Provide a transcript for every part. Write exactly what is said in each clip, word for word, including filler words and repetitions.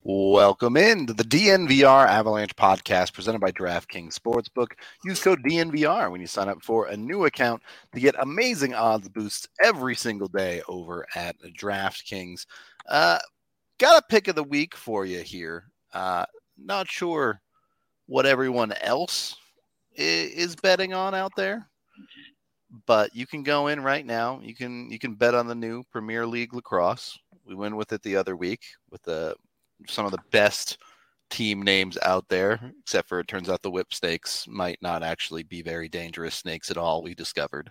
Welcome in to the D N V R Avalanche podcast presented by DraftKings Sportsbook. Use code D N V R when you sign up for a new account to get amazing odds boosts every single day over at DraftKings. Uh, got a pick of the week for you here. Uh, not sure what everyone else is betting on out there, but you can go in right now. You can you can bet on the new Premier League lacrosse. We went with it the other week with the some of the best team names out there, except for it turns out the whip snakes might not actually be very dangerous snakes at all, we discovered.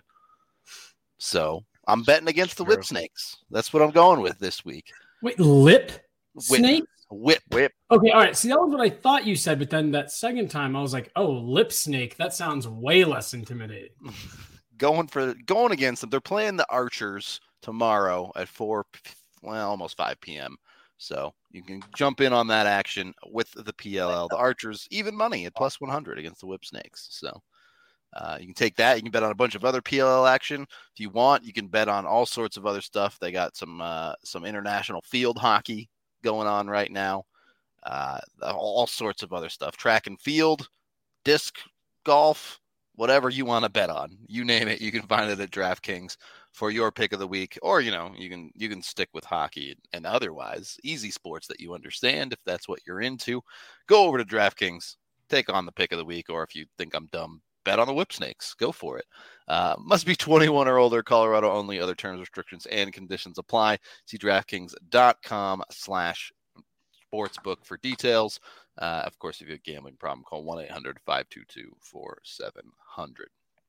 So I'm betting against the whip snakes. That's what I'm going with this week. Wait, lip whip. snake? Whip. Whip. Okay, all right. See, that was what I thought you said, but then that second time I was like, oh, lip snake. That sounds way less intimidating. going for going against them. They're playing the Archers tomorrow at four, well, almost five p.m. So you can jump in on that action with the P L L. The Archers, even money at plus one hundred against the Whip Snakes. So uh, you can take that. You can bet on a bunch of other P L L action. If you want, you can bet on all sorts of other stuff. They got some uh, some international field hockey going on right now. Uh, all sorts of other stuff. Track and field, disc golf, whatever you want to bet on. You name it, you can find it at DraftKings for your pick of the week. Or, you know, you can you can stick with hockey and otherwise easy sports that you understand if that's what you're into. Go over to DraftKings, take on the pick of the week, or if you think I'm dumb, bet on the Whip Snakes. Go for it. Uh, must be twenty-one or older, Colorado only. Other terms, restrictions, and conditions apply. See DraftKings.com slash sportsbook for details. Uh, of course, if you have a gambling problem, call one eight hundred five two two four seven zero zero.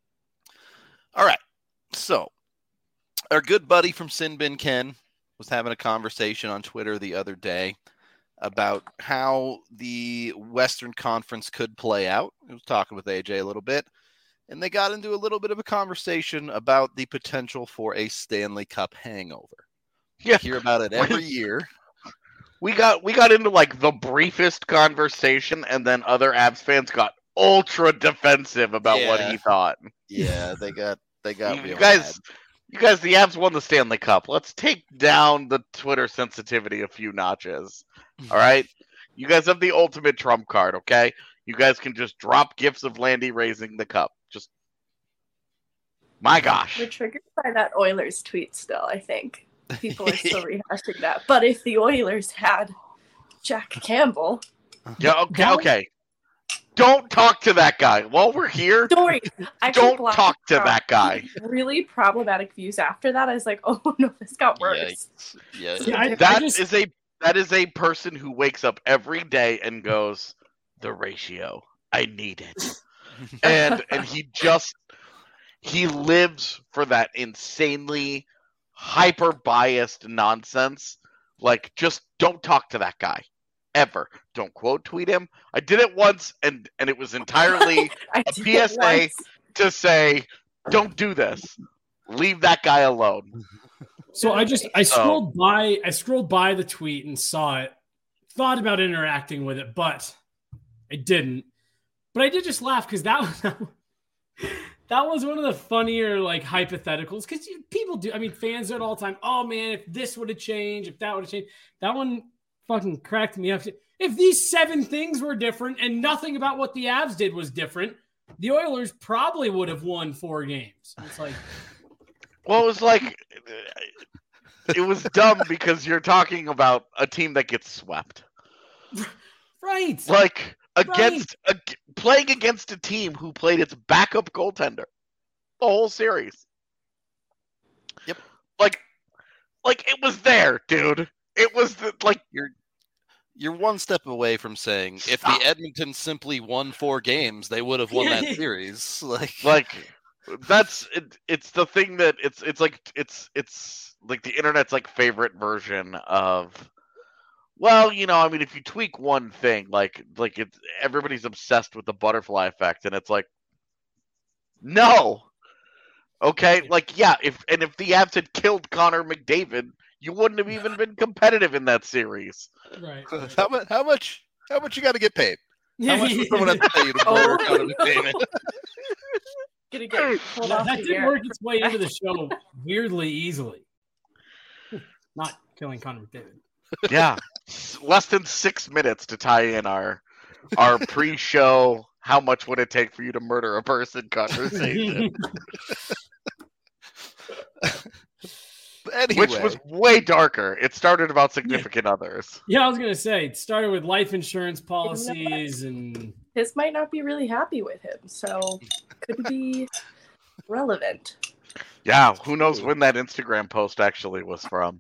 All right. So our good buddy from Sin Bin Ken was having a conversation on Twitter the other day about how the Western Conference could play out. He was talking with A J a little bit, and they got into a little bit of a conversation about the potential for a Stanley Cup hangover. Yeah. You hear about it every year. We got we got into like the briefest conversation, and then other Avs fans got ultra defensive about Yeah. what he thought. Yeah, they got they got You, real you guys, mad. you guys, the Avs won the Stanley Cup. Let's take down the Twitter sensitivity a few notches. All right, you guys have the ultimate trump card. Okay, you guys can just drop gifs of Landy raising the cup. Just my gosh. We're triggered by that Oilers tweet still, I think. People are still rehashing that. But if the Oilers had Jack Campbell... Yeah, okay, okay. Don't talk to that guy. While we're here, Don't worry. I don't talk to that guy. Really problematic views after that. I was like, oh no, this got worse. Yeah, Yeah, I- That just- is a that is a person who wakes up every day and goes, the ratio. I need it. and and he just he lives for that insanely hyper biased nonsense. Like, just don't talk to that guy. Ever. Don't quote tweet him. I did it once and and it was entirely I a did P S A it once. to say, don't do this. Leave that guy alone. So I just I So- scrolled by I scrolled by the tweet and saw it, thought about interacting with it, but I didn't. But I did just laugh because that was that was one of the funnier like hypotheticals because people do. I mean, fans do it all the time. Oh man, if this would have changed, if that would have changed, that one fucking cracked me up. If these seven things were different and nothing about what the Avs did was different, the Oilers probably would have won four games. It's like, Well, it was like it was dumb because you're talking about a team that gets swept. right? Like against a, playing against a team who played its backup goaltender the whole series. Yep. Like like it was there, dude. It was the, like You're you're one step away from saying if Stop. the Edmonton simply won four games, they would have won that series. Like, like that's it, it's the thing that it's it's like it's it's like the internet's like favorite version of, well, you know, I mean, if you tweak one thing, like like it's everybody's obsessed with the butterfly effect, and it's like, no, okay, like yeah, if and if the Avs had killed Connor McDavid, you wouldn't have even been competitive in that series. right. how much? How much? How much you got to get paid? How Yeah, much would someone have to pay you to Oh. murder Connor McDavid? Gonna get pulled that, off that the did air. work its way into the show weirdly easily. Not killing Connor McDavid. Yeah, less than six minutes to tie in our our pre-show. How much would it take for you to murder a person conversation? Anyway. Which was way darker. It started about significant others. Yeah, I was gonna say it started with life insurance policies and His might not be really happy with him, so could be relevant. Yeah, who knows when that Instagram post actually was from.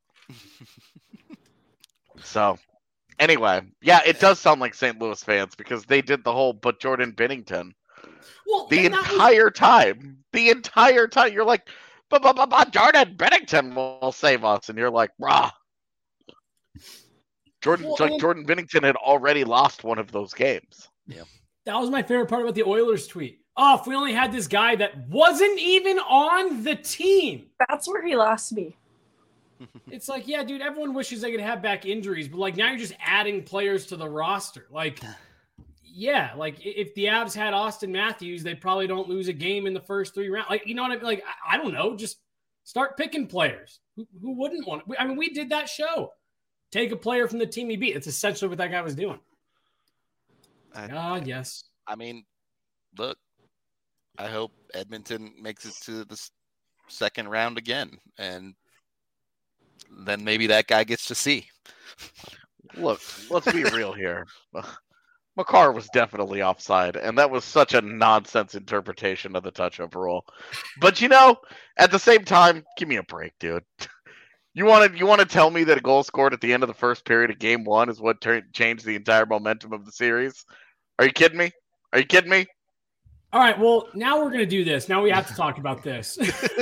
So, anyway, yeah, it does sound like Saint Louis fans because they did the whole but Jordan Binnington. well, The and that was- entire time. The entire time. You're like, but, but, but, but Jordan Binnington will save us. And you're like, rah. Jordan, Well, like and- Jordan Binnington had already lost one of those games. that was my favorite part about the Oilers tweet. Oh, if we only had this guy that wasn't even on the team. That's where he lost me. It's like, yeah, dude, everyone wishes they could have back injuries, but like now you're just adding players to the roster. Like, yeah, like i- if the Avs had Austin Matthews, they probably don't lose a game in the first three rounds. Like, you know what I mean? Like, I, I don't know, just start picking players. Who, who wouldn't want it? I mean, we did that show. Take a player from the team he beat. It's essentially what that guy was doing. I, Ah, yes. I mean, look, I hope Edmonton makes it to the s- second round again, and then maybe that guy gets to see. Look, let's be real here. Makar was definitely offside, and that was such a nonsense interpretation of the touch-up rule. But you know, at the same time, give me a break, dude. You want to you want to tell me that a goal scored at the end of the first period of game one is what turned changed the entire momentum of the series? Are you kidding me? Are you kidding me? All right, well, now we're going to do this. Now we have to talk about this.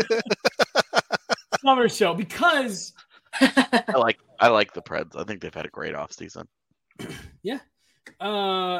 Summer show, because I like I like the Preds. I think they've had a great offseason. uh,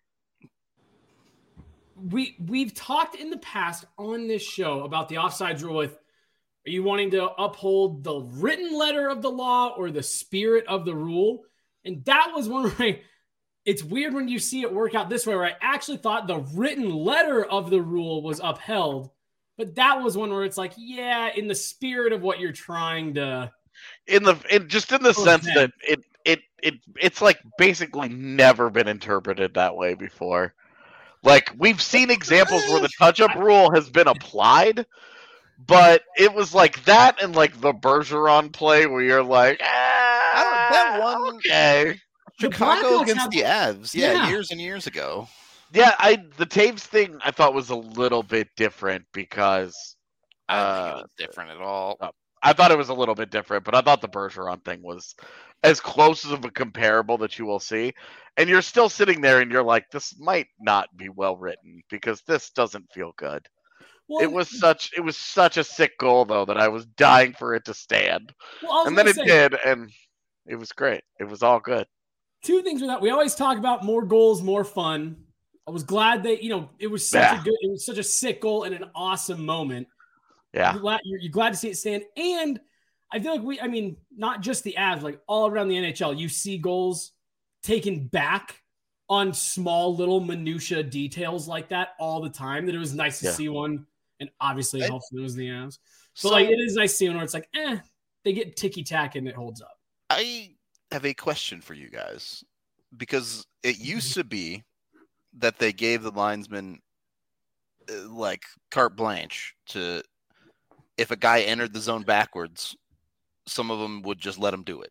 we, we've talked in the past on this show about the offsides rule with, are you wanting to uphold the written letter of the law or the spirit of the rule? And that was one where I, it's weird when you see it work out this way, where I actually thought the written letter of the rule was upheld. But that was one where it's like, yeah, in the spirit of what you're trying to. In the in, just in the Oh, sense man. that it it it it's like basically never been interpreted that way before. Like we've seen examples where the touch-up rule has been applied, but it was like that and like the Bergeron play where you're like, ah, I don't- that one- okay. The Chicago Blackhawks against have- the Avs, yeah, Yeah. years and years ago. Yeah, I the Taves thing I thought was a little bit different because I don't Uh, think it was different at all. I thought it was a little bit different, but I thought the Bergeron thing was as close of a comparable that you will see. And you're still sitting there and you're like, this might not be well written because this doesn't feel good. Well, It was such it was such a sick goal though that I was dying for it to stand. well, I was And then gonna it say, did, and it was great. It was all good. two things with that. We always talk about more goals, more fun. I was glad that, you know, it was such Yeah. a good, it was such a sick goal and an awesome moment. Yeah. You're glad, you're, you're glad to see it stand. And I feel like we, I mean, not just the Avs, like all around the N H L, you see goals taken back on small little minutia details like that all the time. That it was nice to Yeah. see one. And obviously, I- hopefully it was the Avs. But So like, it is nice seeing where it's like, eh, they get ticky tack and it holds up. I have a question for you guys because it used to be that they gave the linesman uh, like carte blanche to if a guy entered the zone backwards, some of them would just let him do it.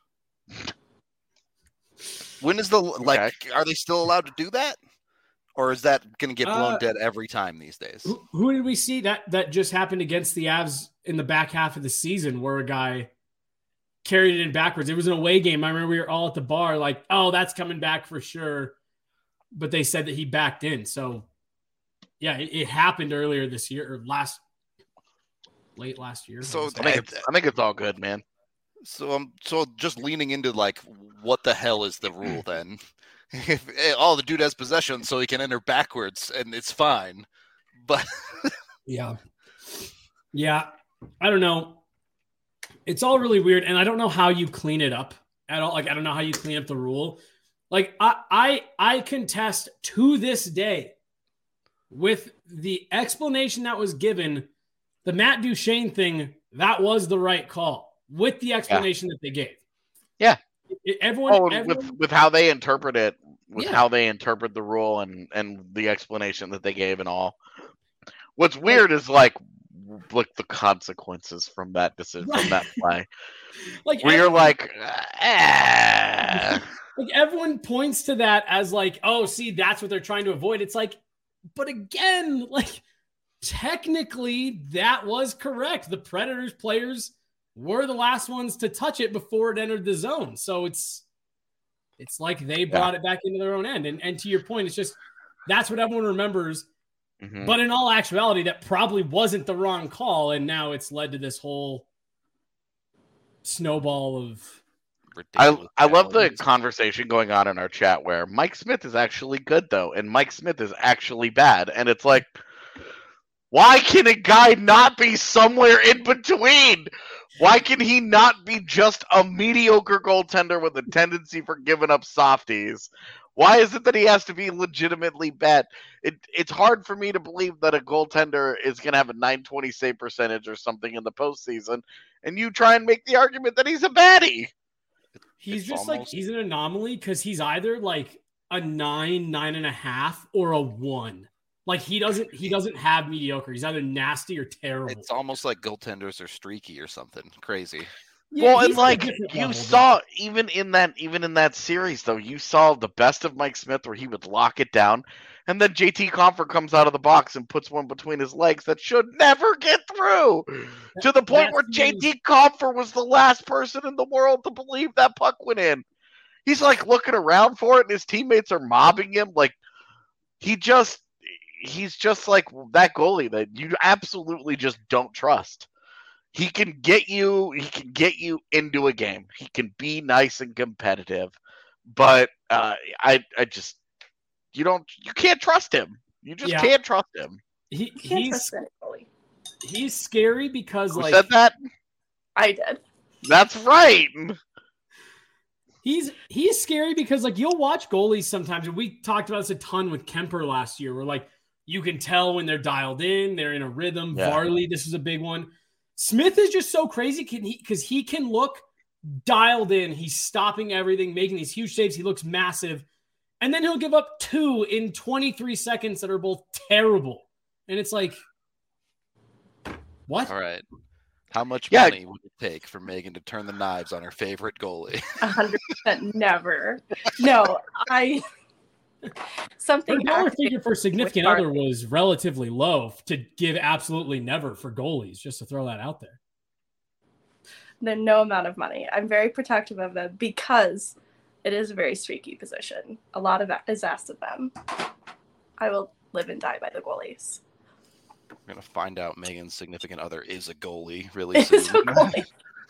When is the like? Are they still allowed to do that, or is that going to get blown Uh, dead every time these days? Who, who did we see that that just happened against the Avs in the back half of the season where a guy carried it in backwards? It was an away game. I remember we were all at the bar like, oh, that's coming back for sure. But they said that he backed in. So, yeah, it, it happened earlier this year or last, late last year. So I think it's I think it's all good, man. So I'm so just leaning into like, what the hell is the rule then? If, eh, oh, the dude has possession, so he can enter backwards, and it's fine. But Yeah. Yeah. I don't know. It's all really weird. And I don't know how you clean it up at all. Like, I don't know how you clean up the rule. Like, I I, I contest to this day with the explanation that was given, the Matt Duchene thing, that was the right call with the explanation that they gave. Yeah. It, everyone, Oh, everyone, with with how they interpret it, with Yeah. how they interpret the rule and and the explanation that they gave and all. What's weird is like, look the consequences from that decision, from that play. like Where you're everyone- like, eh. like everyone points to that as like, oh, see, that's what they're trying to avoid. It's like, but again, like technically that was correct. The Predators players were the last ones to touch it before it entered the zone. So it's it's like they brought yeah. it back into their own end. And and to your point, it's just that's what everyone remembers. Mm-hmm. But in all actuality, that probably wasn't the wrong call, and now it's led to this whole snowball of. I I love the conversation going on in our chat where Mike Smith is actually good though, and Mike Smith is actually bad, and it's like, why can a guy not be somewhere in between? Why can he not be just a mediocre goaltender with a tendency for giving up softies? Why is it that he has to be legitimately bad? It, it's hard for me to believe that a goaltender is going to have a nine twenty save percentage or something in the postseason, and you try and make the argument that he's a baddie. He's it's just almost... like, he's an anomaly because he's either like a nine, nine and a half, or a one. Like he doesn't, he doesn't have mediocre. He's either nasty or terrible. It's almost like goaltenders are streaky or something crazy. Yeah, well, and like you saw, though. even in that, even in that series, though, you saw the best of Mike Smith where he would lock it down, and then J T Compher comes out of the box and puts one between his legs that should never get through, that, to the point where J T Compher was the last person in the world to believe that puck went in. He's like looking around for it, and his teammates are mobbing him. Like he just, he's just like that goalie that you absolutely just don't trust. He can get you. He can get you into a game. He can be nice and competitive, but uh, I, I just, you don't, you can't trust him. You just yeah. can't trust him. He, can't he's, trust anybody. He's scary because Who like said that? I did. That's right. He's he's scary because like you'll watch goalies sometimes, and we talked about this a ton with Kemper last year. Where like you can tell when they're dialed in, they're in a rhythm. Yeah. Varley, this is a big one. Smith is just so crazy because he, he can look dialed in. He's stopping everything, making these huge saves. He looks massive. And then he'll give up two in twenty-three seconds that are both terrible. And it's like, what? All right. How much yeah. money would it take for Megan to turn the knives on her favorite goalie? one hundred percent never. No, I... Something her dollar figure for significant other was relatively low to give absolutely never for goalies, just to throw that out there. Then no amount of money. I'm very protective of them because it is a very streaky position. A lot of that is asked of them. I will live and die by the goalies. We're going to find out Megan's significant other is a goalie really soon. Is a goalie.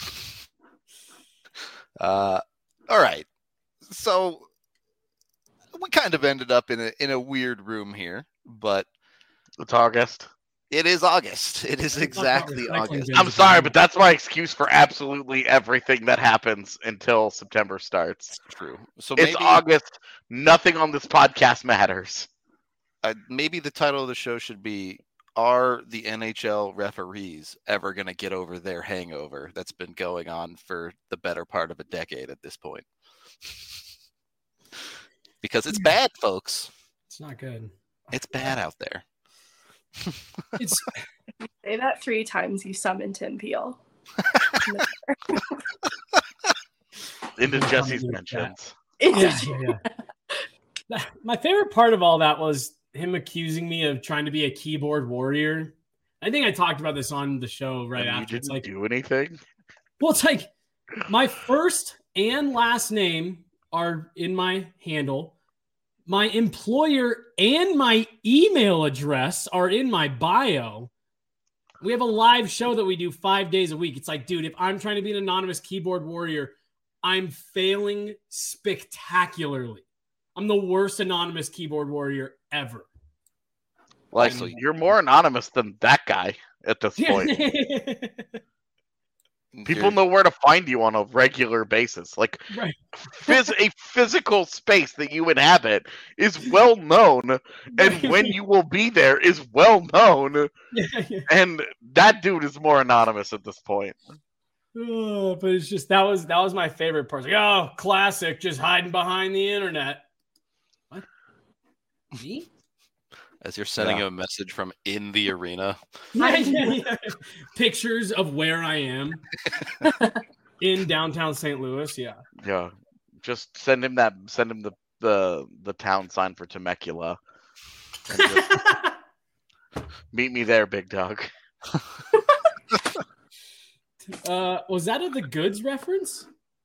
uh, all right. So we kind of ended up in a in a weird room here, but it's August. It is August. It is exactly August. I'm sorry, but that's my excuse for absolutely everything that happens until September starts. It's true. So it's maybe, August. Nothing on this podcast matters. Uh, maybe the title of the show should be, are the N H L referees ever going to get over their hangover that's been going on for the better part of a decade at this point? Because it's bad, folks. It's not good. It's bad out there. It's say that three times, you summon Tim Peel. Into Jesse's mentions. Yeah, yeah, yeah. My favorite part of all that was him accusing me of trying to be a keyboard warrior. I think I talked about this on the show right and after. You didn't it's like, do anything? Well, it's like my first and last name are in my handle. My employer and my email address are in my bio. We have a live show that we do five days a week. It's like, dude, if I'm trying to be an anonymous keyboard warrior, I'm failing spectacularly. I'm the worst anonymous keyboard warrior ever. Like, so you're more anonymous than that guy at this point. People know where to find you on a regular basis. Like, right. phys- a physical space that you inhabit is well known, and when you will be there is well known. Yeah, yeah. And that dude is more anonymous at this point. Oh, but it's just that was that was my favorite part. Like, oh, classic, just hiding behind the internet. What? Me? As you're sending Yeah. a message from in the arena. Yeah, yeah, yeah. Pictures of where I am in downtown Saint Louis. Yeah. Yeah, just send him that. Send him the the the town sign for Temecula. And just meet me there, big dog. uh, was that a The Goods reference?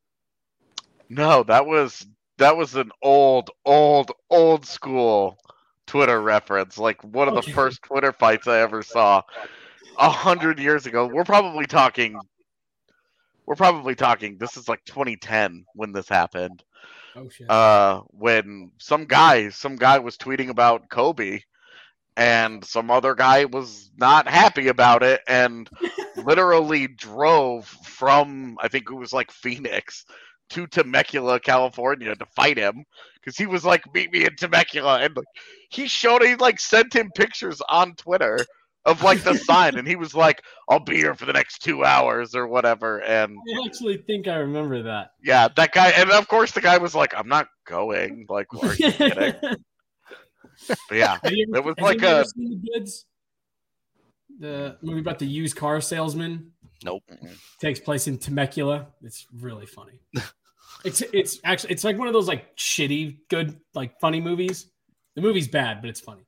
No, that was that was an old, old, old school Twitter reference. Like one of Okay. the first Twitter fights I ever saw a hundred years ago. We're probably talking. We're probably talking. This is like twenty ten when this happened. Oh shit. Uh, when some guy, some guy was tweeting about Kobe, and some other guy was not happy about it, and literally drove from I think it was like Phoenix to Temecula, California, to fight him because he was like, "Meet me in Temecula," and like, he showed, he like sent him pictures on Twitter of like the sign, and he was like, "I'll be here for the next two hours or whatever," and I actually think I remember that. yeah, that guy, and of course the guy was like, "I'm not going." Like, are you kidding? But yeah, Have you ever, it was has like anybody a. ever seen The Goods? The movie about the used car salesman Nope. takes place in Temecula. It's really funny. it's it's actually it's like one of those like shitty good like funny movies. The movie's bad, but it's funny.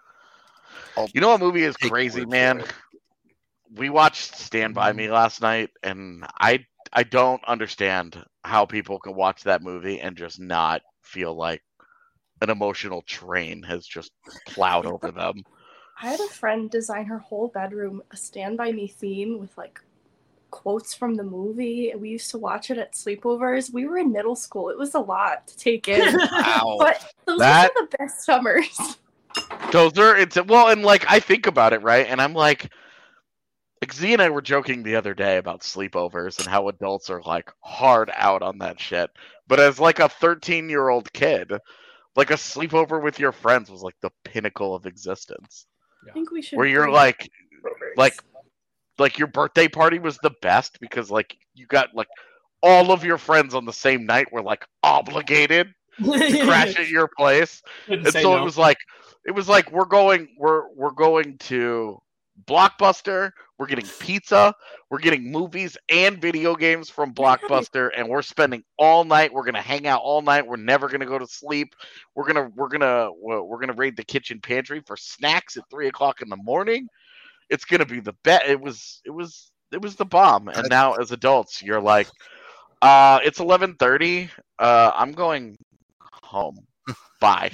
You know what movie is Take crazy, word for man? it. We watched Stand By Me last night, and I I don't understand how people can watch that movie and just not feel like an emotional train has just plowed over them. I had a friend design her whole bedroom a Stand By Me theme with like quotes from the movie. We used to watch it at sleepovers. We were in middle school. It was a lot to take in. Wow. But those That- are the best summers. Those are it's well, and like I think about it, right? And I'm like, like Z and I were joking the other day about sleepovers and how adults are like hard out on that shit. But as like a thirteen year old kid, like a sleepover with your friends was like the pinnacle of existence. I think we should Where you're bring like, sleepovers. like, like your birthday party was the best because like you got like all of your friends on the same night were like obligated to crash at your place. Couldn't And say so no. it was like it was like we're going we're we're going to Blockbuster, we're getting pizza, we're getting movies and video games from Blockbuster, and we're spending all night. We're gonna hang out all night. We're never gonna go to sleep. We're gonna we're gonna we're gonna raid the kitchen pantry for snacks at three o'clock in the morning. It's gonna be the bet. It was it was it was the bomb. And now as adults, you're like, uh, it's eleven thirty. Uh, I'm going home. Bye.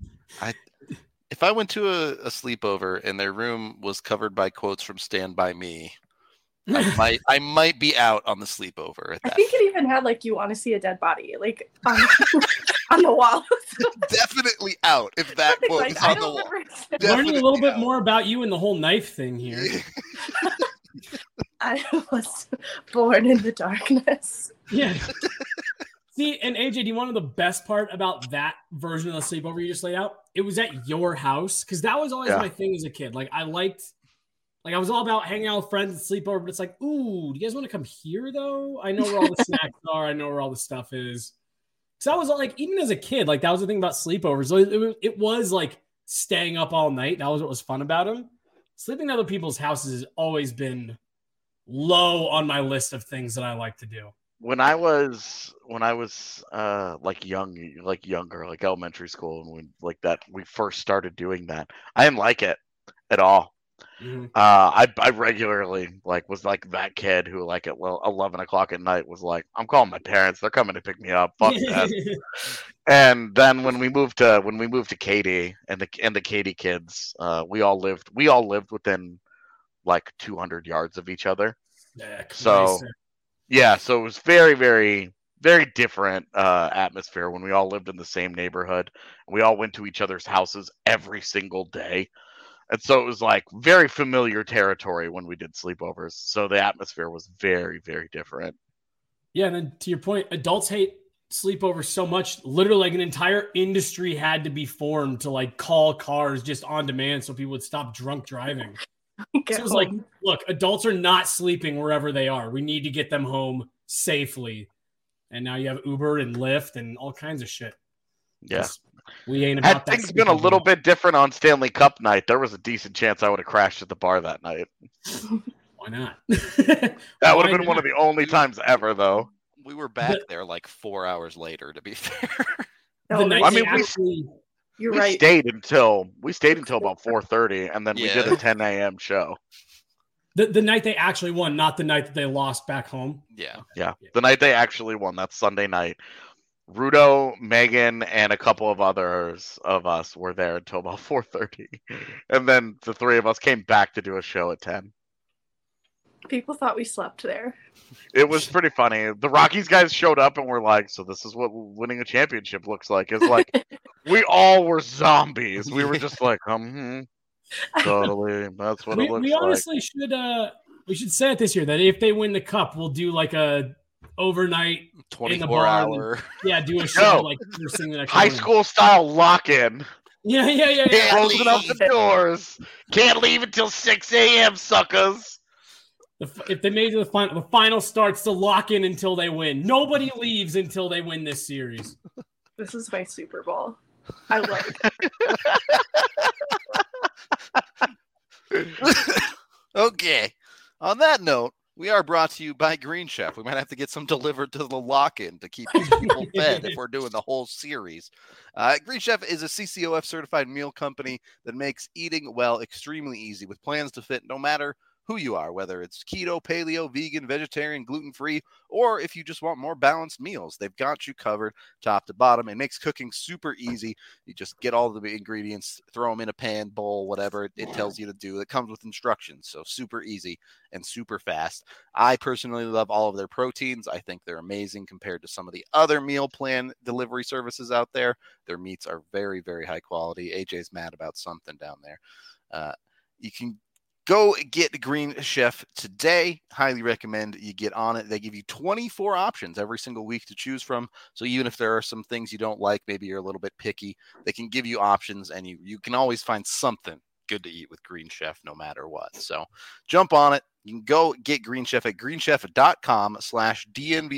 If I went to a, a sleepover and their room was covered by quotes from Stand By Me, I might I might be out on the sleepover at I that. think it even had like you want to see a dead body like on, on the wall. Definitely out if that Something quote like, is I on the don't wall. remember. Learning a little Definitely bit out. more about you and the whole knife thing here. I was born in the darkness. Yeah. See, and A J, do you want to know the best part about that version of the sleepover you just laid out? It was at your house, because that was always Yeah. my thing as a kid. Like, I liked, like, I was all about hanging out with friends and sleepover, but it's like, ooh, do you guys want to come here, though? I know where all the snacks are. I know where all the stuff is. So I was like, even as a kid, like, that was the thing about sleepovers. It, it, it was like staying up all night. That was what was fun about them. Sleeping at other people's houses has always been low on my list of things that I like to do. When I was when I was uh like young like younger like elementary school and when like that we first started doing that, I didn't like it at all. Mhm. Uh, I I regularly like was like that kid who like at well eleven o'clock at night was like, I'm calling my parents, they're coming to pick me up. Fuck that. And then when we moved to when we moved to Katy and the and the Katy kids, uh, we all lived we all lived within like two hundred yards of each other. Yeah, So- nicer. Yeah, so it was very, very, very different uh, atmosphere when we all lived in the same neighborhood. We all went to each other's houses every single day. And so it was like very familiar territory when we did sleepovers. So the atmosphere was very, very different. Yeah, and then to your point, adults hate sleepovers so much. Literally, like an entire industry had to be formed to like call cars just on demand so people would stop drunk driving. Get So it's like, home. look, adults are not sleeping wherever they are. We need to get them home safely. And now you have Uber and Lyft and all kinds of shit. Yeah. We ain't about Had that. things been a little bit different on Stanley Cup night, there was a decent chance I would have crashed at the bar that night. Why not? That Why would have been not? one of the only times ever, though. We were back The- there like four hours later, to be fair. The No, night I they mean, we- actually, you're we right. stayed until we stayed until about four thirty, and then we Yeah. did a ten a.m. show. the, the night they actually won, not the night that they lost back home. Yeah. Yeah, the night they actually won. That's Sunday night. Rudo, Megan, and a couple of others of us were there until about four thirty, and then the three of us came back to do a show at ten. People thought we slept there. It was pretty funny. The Rockies guys showed up and were like, "So this is what winning a championship looks like." It's like we all were zombies. We were just like, um, hmm, totally. That's what We, it looks we like. honestly should uh we should say it this year that if they win the cup, we'll do like a overnight, twenty-four barn. hour. yeah, do a show Yo, like first thing the next High morning. school style lock-in. Yeah, yeah, yeah, yeah. Closing up the doors. Can't leave until six a.m. suckers. The, if they made it to the final, the final starts to lock in until they win. Nobody leaves until they win this series. This is my Super Bowl. I like. Okay. On that note, we are brought to you by Green Chef. We might have to get some delivered to the lock-in to keep these people fed if we're doing the whole series. Uh, Green Chef is a C C O F certified meal company that makes eating well extremely easy with plans to fit no matter who you are, whether it's keto, paleo, vegan, vegetarian, gluten-free, or if you just want more balanced meals. They've got you covered top to bottom. It makes cooking super easy. You just get all the ingredients, throw them in a pan, bowl, whatever it, it tells you to do. It comes with instructions, so super easy and super fast. I personally love all of their proteins. I think they're amazing compared to some of the other meal plan delivery services out there. Their meats are very, very high quality. A J's mad about something down there. Uh, you can Go get Green Chef today. Highly recommend you get on it. They give you twenty-four options every single week to choose from. So even if there are some things you don't like, maybe you're a little bit picky, they can give you options, and you, you can always find something good to eat with Green Chef no matter what. So jump on it. You can go get Green Chef at greenchef.com slash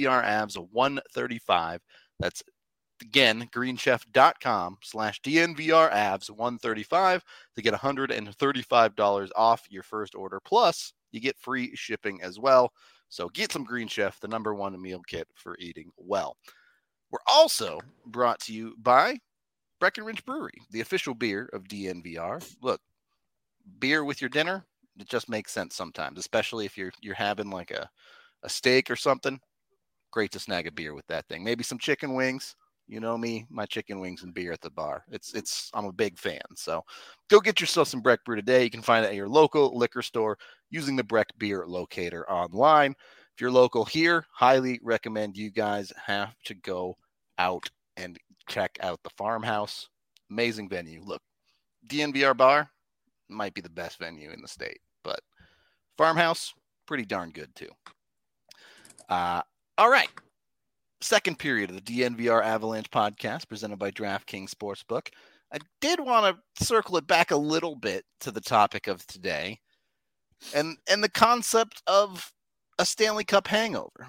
DNVRAvs135. That's Again, greenchef.com slash DNVRAvs135 to get one hundred thirty-five dollars off your first order. Plus, you get free shipping as well. So get some Green Chef, the number one meal kit for eating well. We're also brought to you by Breckenridge Brewery, the official beer of D N V R. Look, beer with your dinner, it just makes sense sometimes, especially if you're you're having like a, a steak or something. Great to snag a beer with that thing. Maybe some chicken wings. You know me, my chicken wings and beer at the bar. It's it's I'm a big fan. So go get yourself some Breck Brew today. You can find it at your local liquor store using the Breck Beer Locator online. If you're local here, highly recommend you guys have to go out and check out the Farmhouse. Amazing venue. Look, D N V R Bar might be the best venue in the state, but Farmhouse, pretty darn good too. Uh, all right. Second period of the D N V R Avalanche podcast presented by DraftKings Sportsbook. I did want to circle it back a little bit to the topic of today and, and the concept of a Stanley Cup hangover.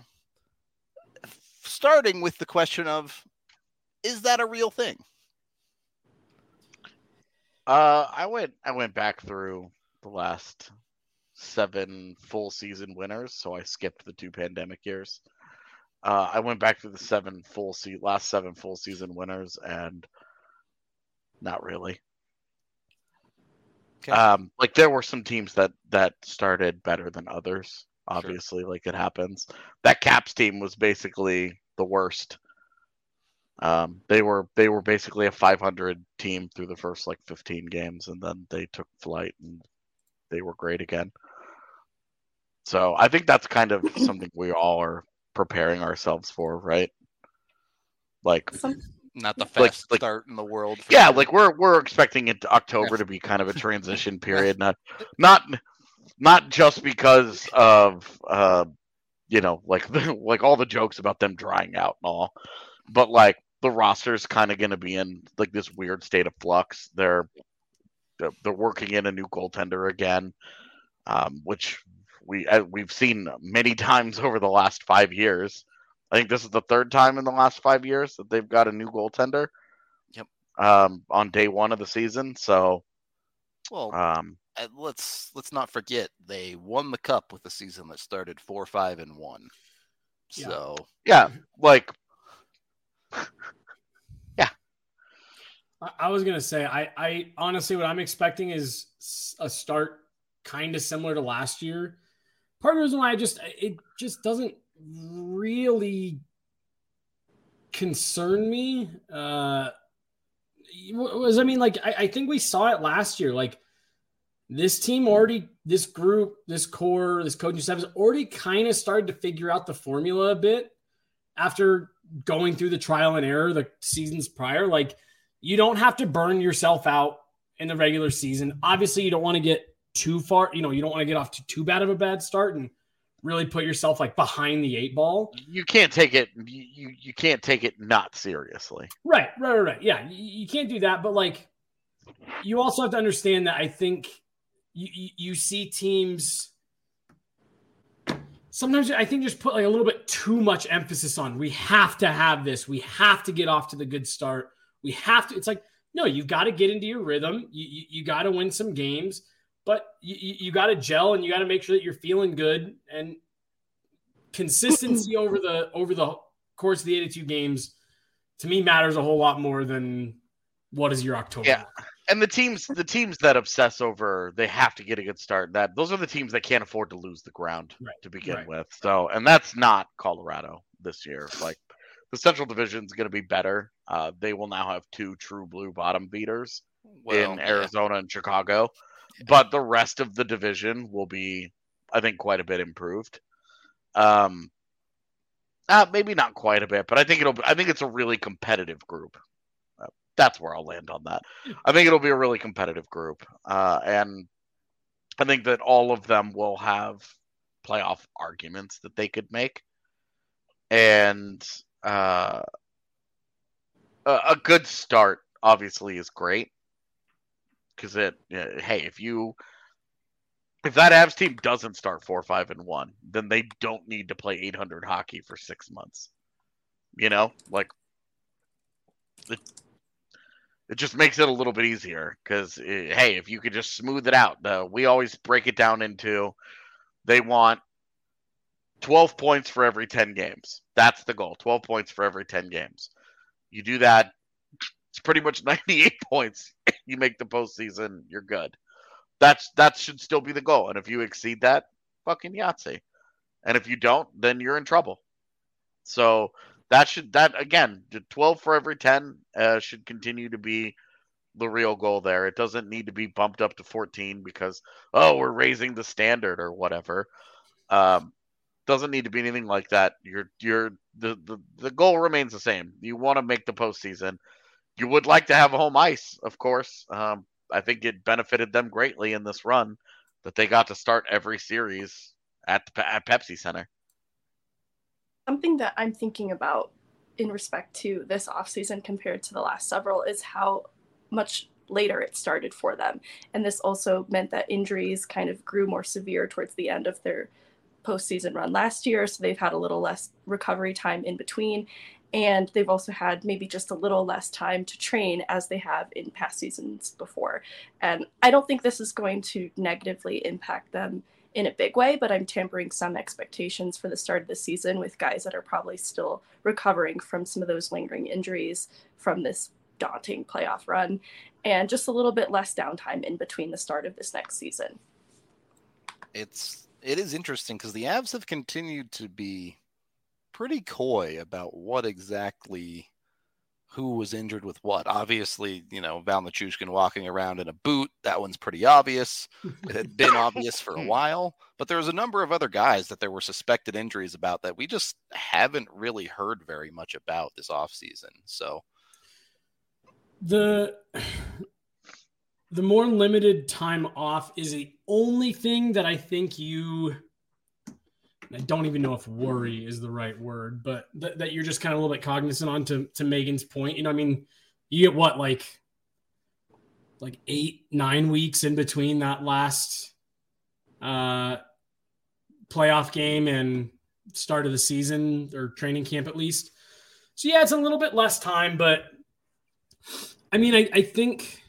Starting with the question of, is that a real thing? Uh, I went I went back through the last seven full season winners, so I skipped the two pandemic years. Uh, I went back to the seven full se- last seven full season winners, and not really. Okay. Um, like there were some teams that that started better than others. Obviously, sure. Like it happens. That Caps team was basically the worst. Um, they were they were basically a five hundred team through the first like fifteen games, and then they took flight and they were great again. So I think that's kind of something we all are preparing ourselves for, right? Like not the like, fastest like, start in the world. Yeah, sure. like we're we're expecting it to October to be kind of a transition period, not not not just because of uh you know like the, like all the jokes about them drying out and all, but like the roster's kind of going to be in like this weird state of flux. They're they're, they're working in a new goaltender again. um, which we uh, we've seen many times over the last five years. I think this is the third time in the last five years that they've got a new goaltender. Yep. Um, on day one of the season. So, well, um, let's let's not forget they won the cup with a season that started four, five, and one. Yeah. So yeah, like, yeah. I, I was gonna say, I, I honestly, what I'm expecting is a start kind of similar to last year. Part of the reason why I just it just doesn't really concern me uh, was, I mean, like I, I think we saw it last year. Like this team already, this group, this core, this coaching staff has already kind of started to figure out the formula a bit after going through the trial and error the seasons prior. Like you don't have to burn yourself out in the regular season. Obviously, you don't want to get too far, you know, you don't want to get off to too bad of a bad start and really put yourself like behind the eight ball. You can't take it. You you can't take it not seriously. Right, right, right, right. Yeah, you, you can't do that. But like, you also have to understand that I think you, you you see teams sometimes. I think just put like a little bit too much emphasis on we have to have this. We have to get off to the good start. We have to. It's like no, you've got to get into your rhythm. You you, you got to win some games. But you, you, you got to gel and you got to make sure that you're feeling good, and consistency over the over the course of the eighty-two games to me matters a whole lot more than what is your October. Yeah, and the teams the teams that obsess over they have to get a good start. That those are the teams that can't afford to lose the ground right. to begin right. with. So, and that's not Colorado this year. Like the Central Division is going to be better. Uh, they will now have two true blue bottom beaters well, in Arizona yeah. and Chicago. But the rest of the division will be, I think, quite a bit improved. Um, uh, maybe not quite a bit, but I think it'll. I think it's a really competitive group. Uh, that's where I'll land on that. I think it'll be a really competitive group, uh, and I think that all of them will have playoff arguments that they could make, and uh, a, a good start obviously is great. Because it, uh, hey, if you, if that Avs team doesn't start four, five, and one, then they don't need to play eight hundred hockey for six months. You know, like it, it just makes it a little bit easier. Because hey, if you could just smooth it out, uh, we always break it down into they want twelve points for every ten games. That's the goal. twelve points for every ten games. You do that. It's pretty much ninety-eight points. You make the postseason, you're good. That's that should still be the goal. And if you exceed that, fucking Yahtzee. And if you don't, then you're in trouble. So that should that again, twelve for every ten uh, should continue to be the real goal there. It doesn't need to be bumped up to fourteen because oh, we're raising the standard or whatever. Um, doesn't need to be anything like that. You're you're the the, the goal remains the same. You want to make the postseason. You would like to have a home ice, of course. Um, I think it benefited them greatly in this run that they got to start every series at the at Pepsi Center. Something that I'm thinking about in respect to this offseason compared to the last several is how much later it started for them. And this also meant that injuries kind of grew more severe towards the end of their postseason run last year. So they've had a little less recovery time in between. And they've also had maybe just a little less time to train as they have in past seasons before. And I don't think this is going to negatively impact them in a big way, but I'm tempering some expectations for the start of the season with guys that are probably still recovering from some of those lingering injuries from this daunting playoff run, and just a little bit less downtime in between the start of this next season. It's, it is interesting because the Avs have continued to be pretty coy about what exactly who was injured with what. Obviously, you know, Val Nichushkin walking around in a boot, that one's pretty obvious. It had been obvious for a while, but there was a number of other guys that there were suspected injuries about that we just haven't really heard very much about this offseason. So the the more limited time off is the only thing that I think you I don't even know if worry is the right word, but th- that you're just kind of a little bit cognizant on to, to Megan's point. You know, I mean, you get what, like, like eight, nine weeks in between that last uh, playoff game and start of the season or training camp at least. So yeah, it's a little bit less time, but I mean, I, I think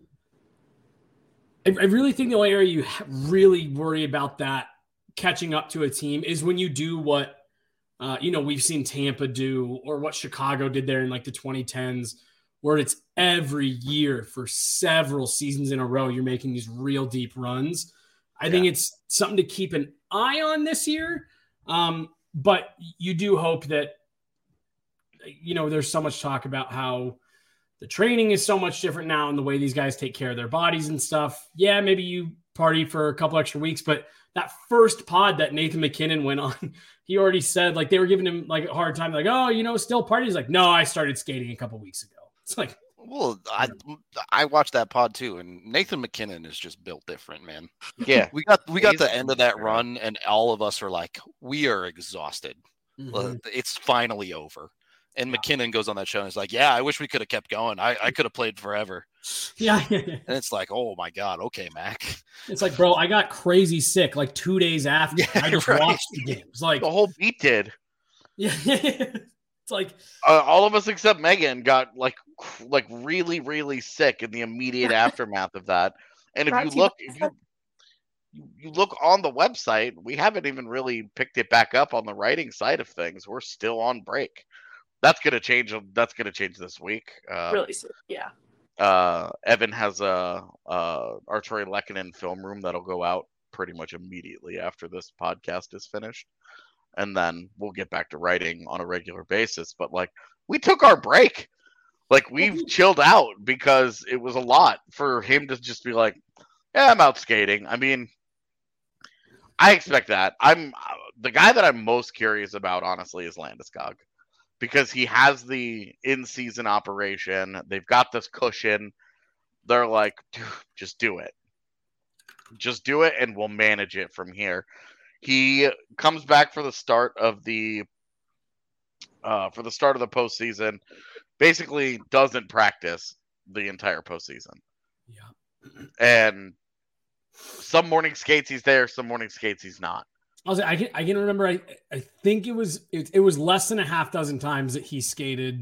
I, I really think the only area you really worry about that catching up to a team is when you do what uh, you know we've seen Tampa do or what Chicago did there in like the twenty tens, where it's every year for several seasons in a row you're making these real deep runs. I yeah. think it's something to keep an eye on this year, um, but you do hope that you know there's so much talk about how the training is so much different now and the way these guys take care of their bodies and stuff. Yeah, maybe you party for a couple extra weeks, but that first pod that Nathan MacKinnon went on, he already said, like, they were giving him like a hard time, like, oh, you know, still party. He's like, no, I started skating a couple weeks ago. It's like, well, I I watched that pod too, and Nathan MacKinnon is just built different, man. Yeah, we got we got He's, the end of that run, and all of us are like, we are exhausted. Mm-hmm. It's finally over. And MacKinnon goes on that show and is like, yeah, I wish we could have kept going. I, I could have played forever. Yeah. And it's like, oh my God. Okay, Mac. It's like, bro, I got crazy sick like two days after. Yeah, I just right. watched the games. Like the whole beat did. Yeah. It's like uh, all of us except Megan got like like really, really sick in the immediate aftermath of that. And if you look if you, you look on the website, we haven't even really picked it back up on the writing side of things. We're still on break. That's gonna change. That's gonna change this week. Uh, really soon, yeah. Uh, Evan has a, a Artturi Lehkonen film room that'll go out pretty much immediately after this podcast is finished, and then we'll get back to writing on a regular basis. But like, we took our break. Like we've chilled out because it was a lot for him to just be like, "Yeah, I'm out skating." I mean, I expect that. I'm the guy that I'm most curious about, honestly, is Landeskog. Because he has the in-season operation. They've got this cushion. They're like, dude, just do it. Just do it, and we'll manage it from here. He comes back for the start of the uh, for the start of the postseason. Basically, doesn't practice the entire postseason. Yeah. And some morning skates he's there, some morning skates he's not. I was I can I can remember I I think it was it, it was less than a half dozen times that he skated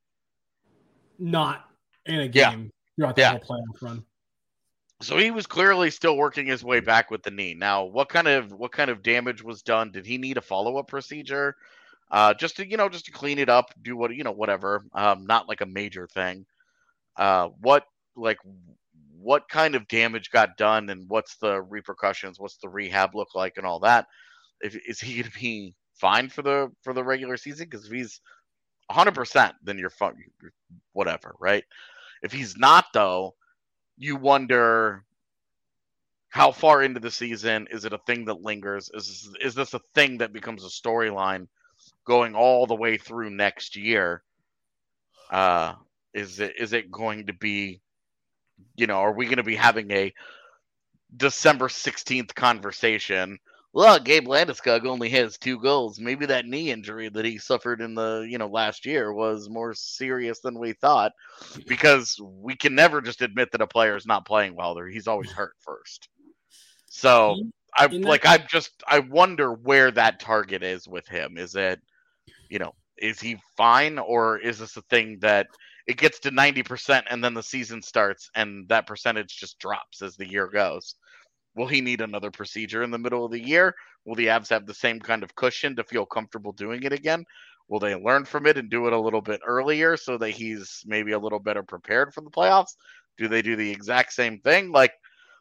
not in a game yeah. throughout the yeah. whole playoff run. So he was clearly still working his way back with the knee. Now, what kind of what kind of damage was done? Did he need a follow-up procedure? Uh, just to you know, just to clean it up, do what you know, whatever. Um, not like a major thing. Uh, what like what kind of damage got done, and what's the repercussions? What's the rehab look like, and all that? If, is he going to be fine for the for the regular season? Because if he's one hundred percent, then you're fun, whatever, right? If he's not, though, you wonder how far into the season is it a thing that lingers? Is is this a thing that becomes a storyline going all the way through next year? Uh, is it is it going to be, you know, are we going to be having a December sixteenth conversation? Well, Gabe Landeskog only has two goals. Maybe that knee injury that he suffered in the, you know, last year was more serious than we thought, because we can never just admit that a player is not playing well. There, he's always hurt first. So I like, I just, I wonder where that target is with him. Is it, you know, is he fine, or is this a thing that it gets to ninety percent and then the season starts and that percentage just drops as the year goes? Will he need another procedure in the middle of the year? Will the Avs have the same kind of cushion to feel comfortable doing it again? Will they learn from it and do it a little bit earlier so that he's maybe a little better prepared for the playoffs? Do they do the exact same thing? Like,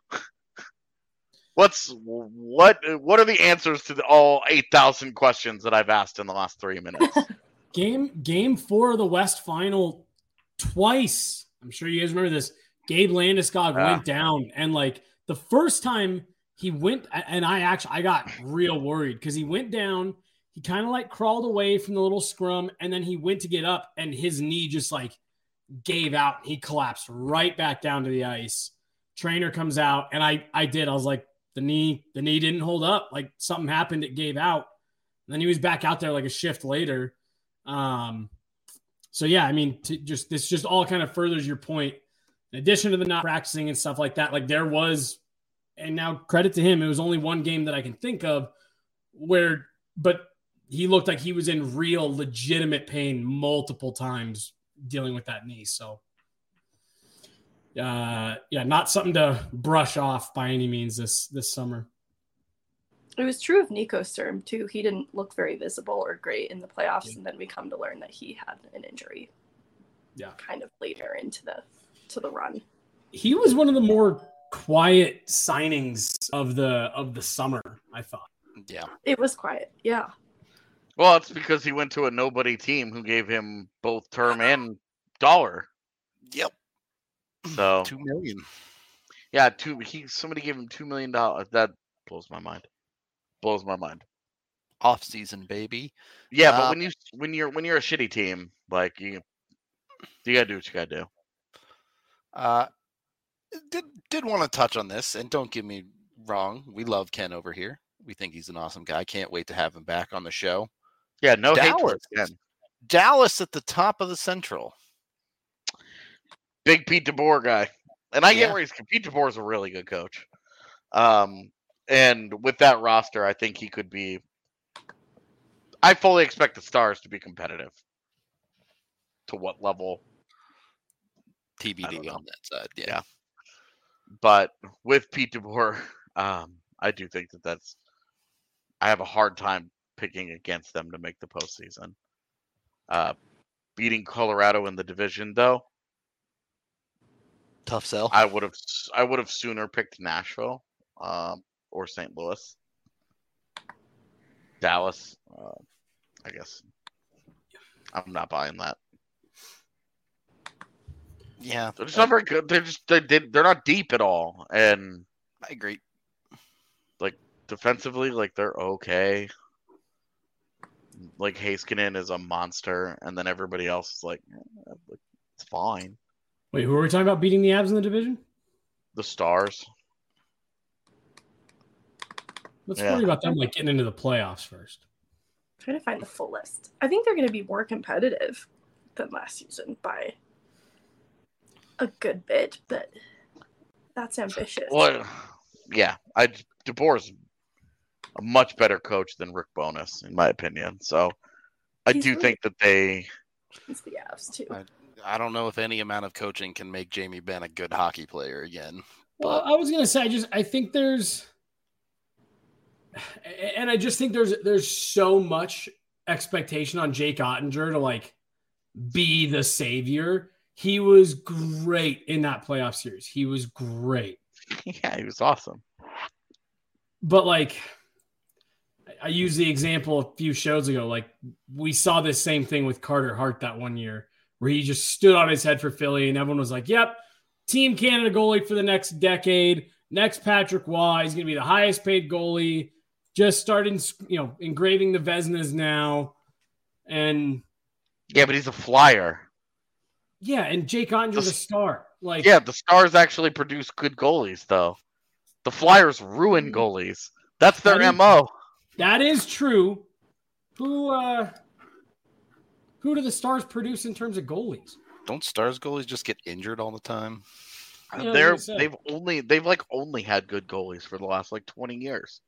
what's what? What are the answers to the, all eight thousand questions that I've asked in the last three minutes? game Game four of the West Final, twice. I'm sure you guys remember this. Gabe Landeskog uh, went down, and like. The first time he went, and I actually, I got real worried because he went down, he kind of like crawled away from the little scrum, and then he went to get up, and his knee just like gave out. He collapsed right back down to the ice. Trainer comes out, and I, I did. I was like, the knee, the knee didn't hold up. Like something happened, it gave out. And then he was back out there like a shift later. Um, so yeah, I mean, to just this just all kind of furthers your point. In addition to the not practicing and stuff like that, like there was and now credit to him, it was only one game that I can think of where, but he looked like he was in real legitimate pain multiple times dealing with that knee. So, uh, yeah, not something to brush off by any means this this summer. It was true of Nico Sturm too. He didn't look very visible or great in the playoffs, yeah. and then we come to learn that he had an injury. Yeah, kind of later into the to the run. He was one of the more quiet signings of the of the summer, I thought. Yeah, it was quiet. Yeah. Well, it's because he went to a nobody team who gave him both term and dollar. Yep. So two million. Yeah, two. He somebody gave him two million dollars. That blows my mind. Blows my mind. Off season, baby. Yeah, but uh, when you when you're when you're a shitty team, like you, you gotta do what you gotta do. Uh, did did want to touch on this, and don't get me wrong, we love Ken over here. We think he's an awesome guy. Can't wait to have him back on the show. Yeah, no Dallas, hate towards Ken. Dallas at the top of the Central. Big Pete DeBoer guy, and I Yeah. get where he's. Pete DeBoer is a really good coach. Um. And with that roster, I think he could be. I fully expect the Stars to be competitive. To what level? T B D on that side, yeah. yeah. But with Pete DeBoer, um, I do think that that's. I have a hard time picking against them to make the postseason. Uh, beating Colorado in the division, though. Tough sell. I would have. I would have sooner picked Nashville. Um. Or Saint Louis, Dallas. Uh, I guess I'm not buying that. Yeah, they're just not very good. They're just they they're not deep at all, and I agree. Like defensively, like they're okay. Like Heiskanen is a monster, and then everybody else is like, eh, it's fine. Wait, who are we talking about beating the Avs in the division? The Stars. Let's Yeah. worry about them like getting into the playoffs first. I'm trying to find the full list. I think they're going to be more competitive than last season by a good bit, but that's ambitious. Well, yeah, I DeBoer's a much better coach than Rick Bowness, in my opinion. So I He's do really- think that they. It's the Avs too. I, I don't know if any amount of coaching can make Jamie Benn a good hockey player again. Well, I was gonna say, I just I think there's. And I just think there's there's so much expectation on Jake Ottinger to like be the savior. He was great in that playoff series. He was great. Yeah, he was awesome. But like I used the example a few shows ago. Like we saw this same thing with Carter Hart that one year where he just stood on his head for Philly and everyone was like, yep, Team Canada goalie for the next decade. Next Patrick Waugh. He's going to be the highest paid goalie. Just starting, you know, engraving the Vezinas now. And yeah, but he's a flyer. Yeah, and Jake Ottinger's a star. Like Yeah, the Stars actually produce good goalies, though. The Flyers ruin goalies. That's their That is- M O. That is true. Who uh who do the Stars produce in terms of goalies? Don't Stars goalies just get injured all the time? Yeah, I was They're gonna say. they've only they've like only had good goalies for the last like twenty years.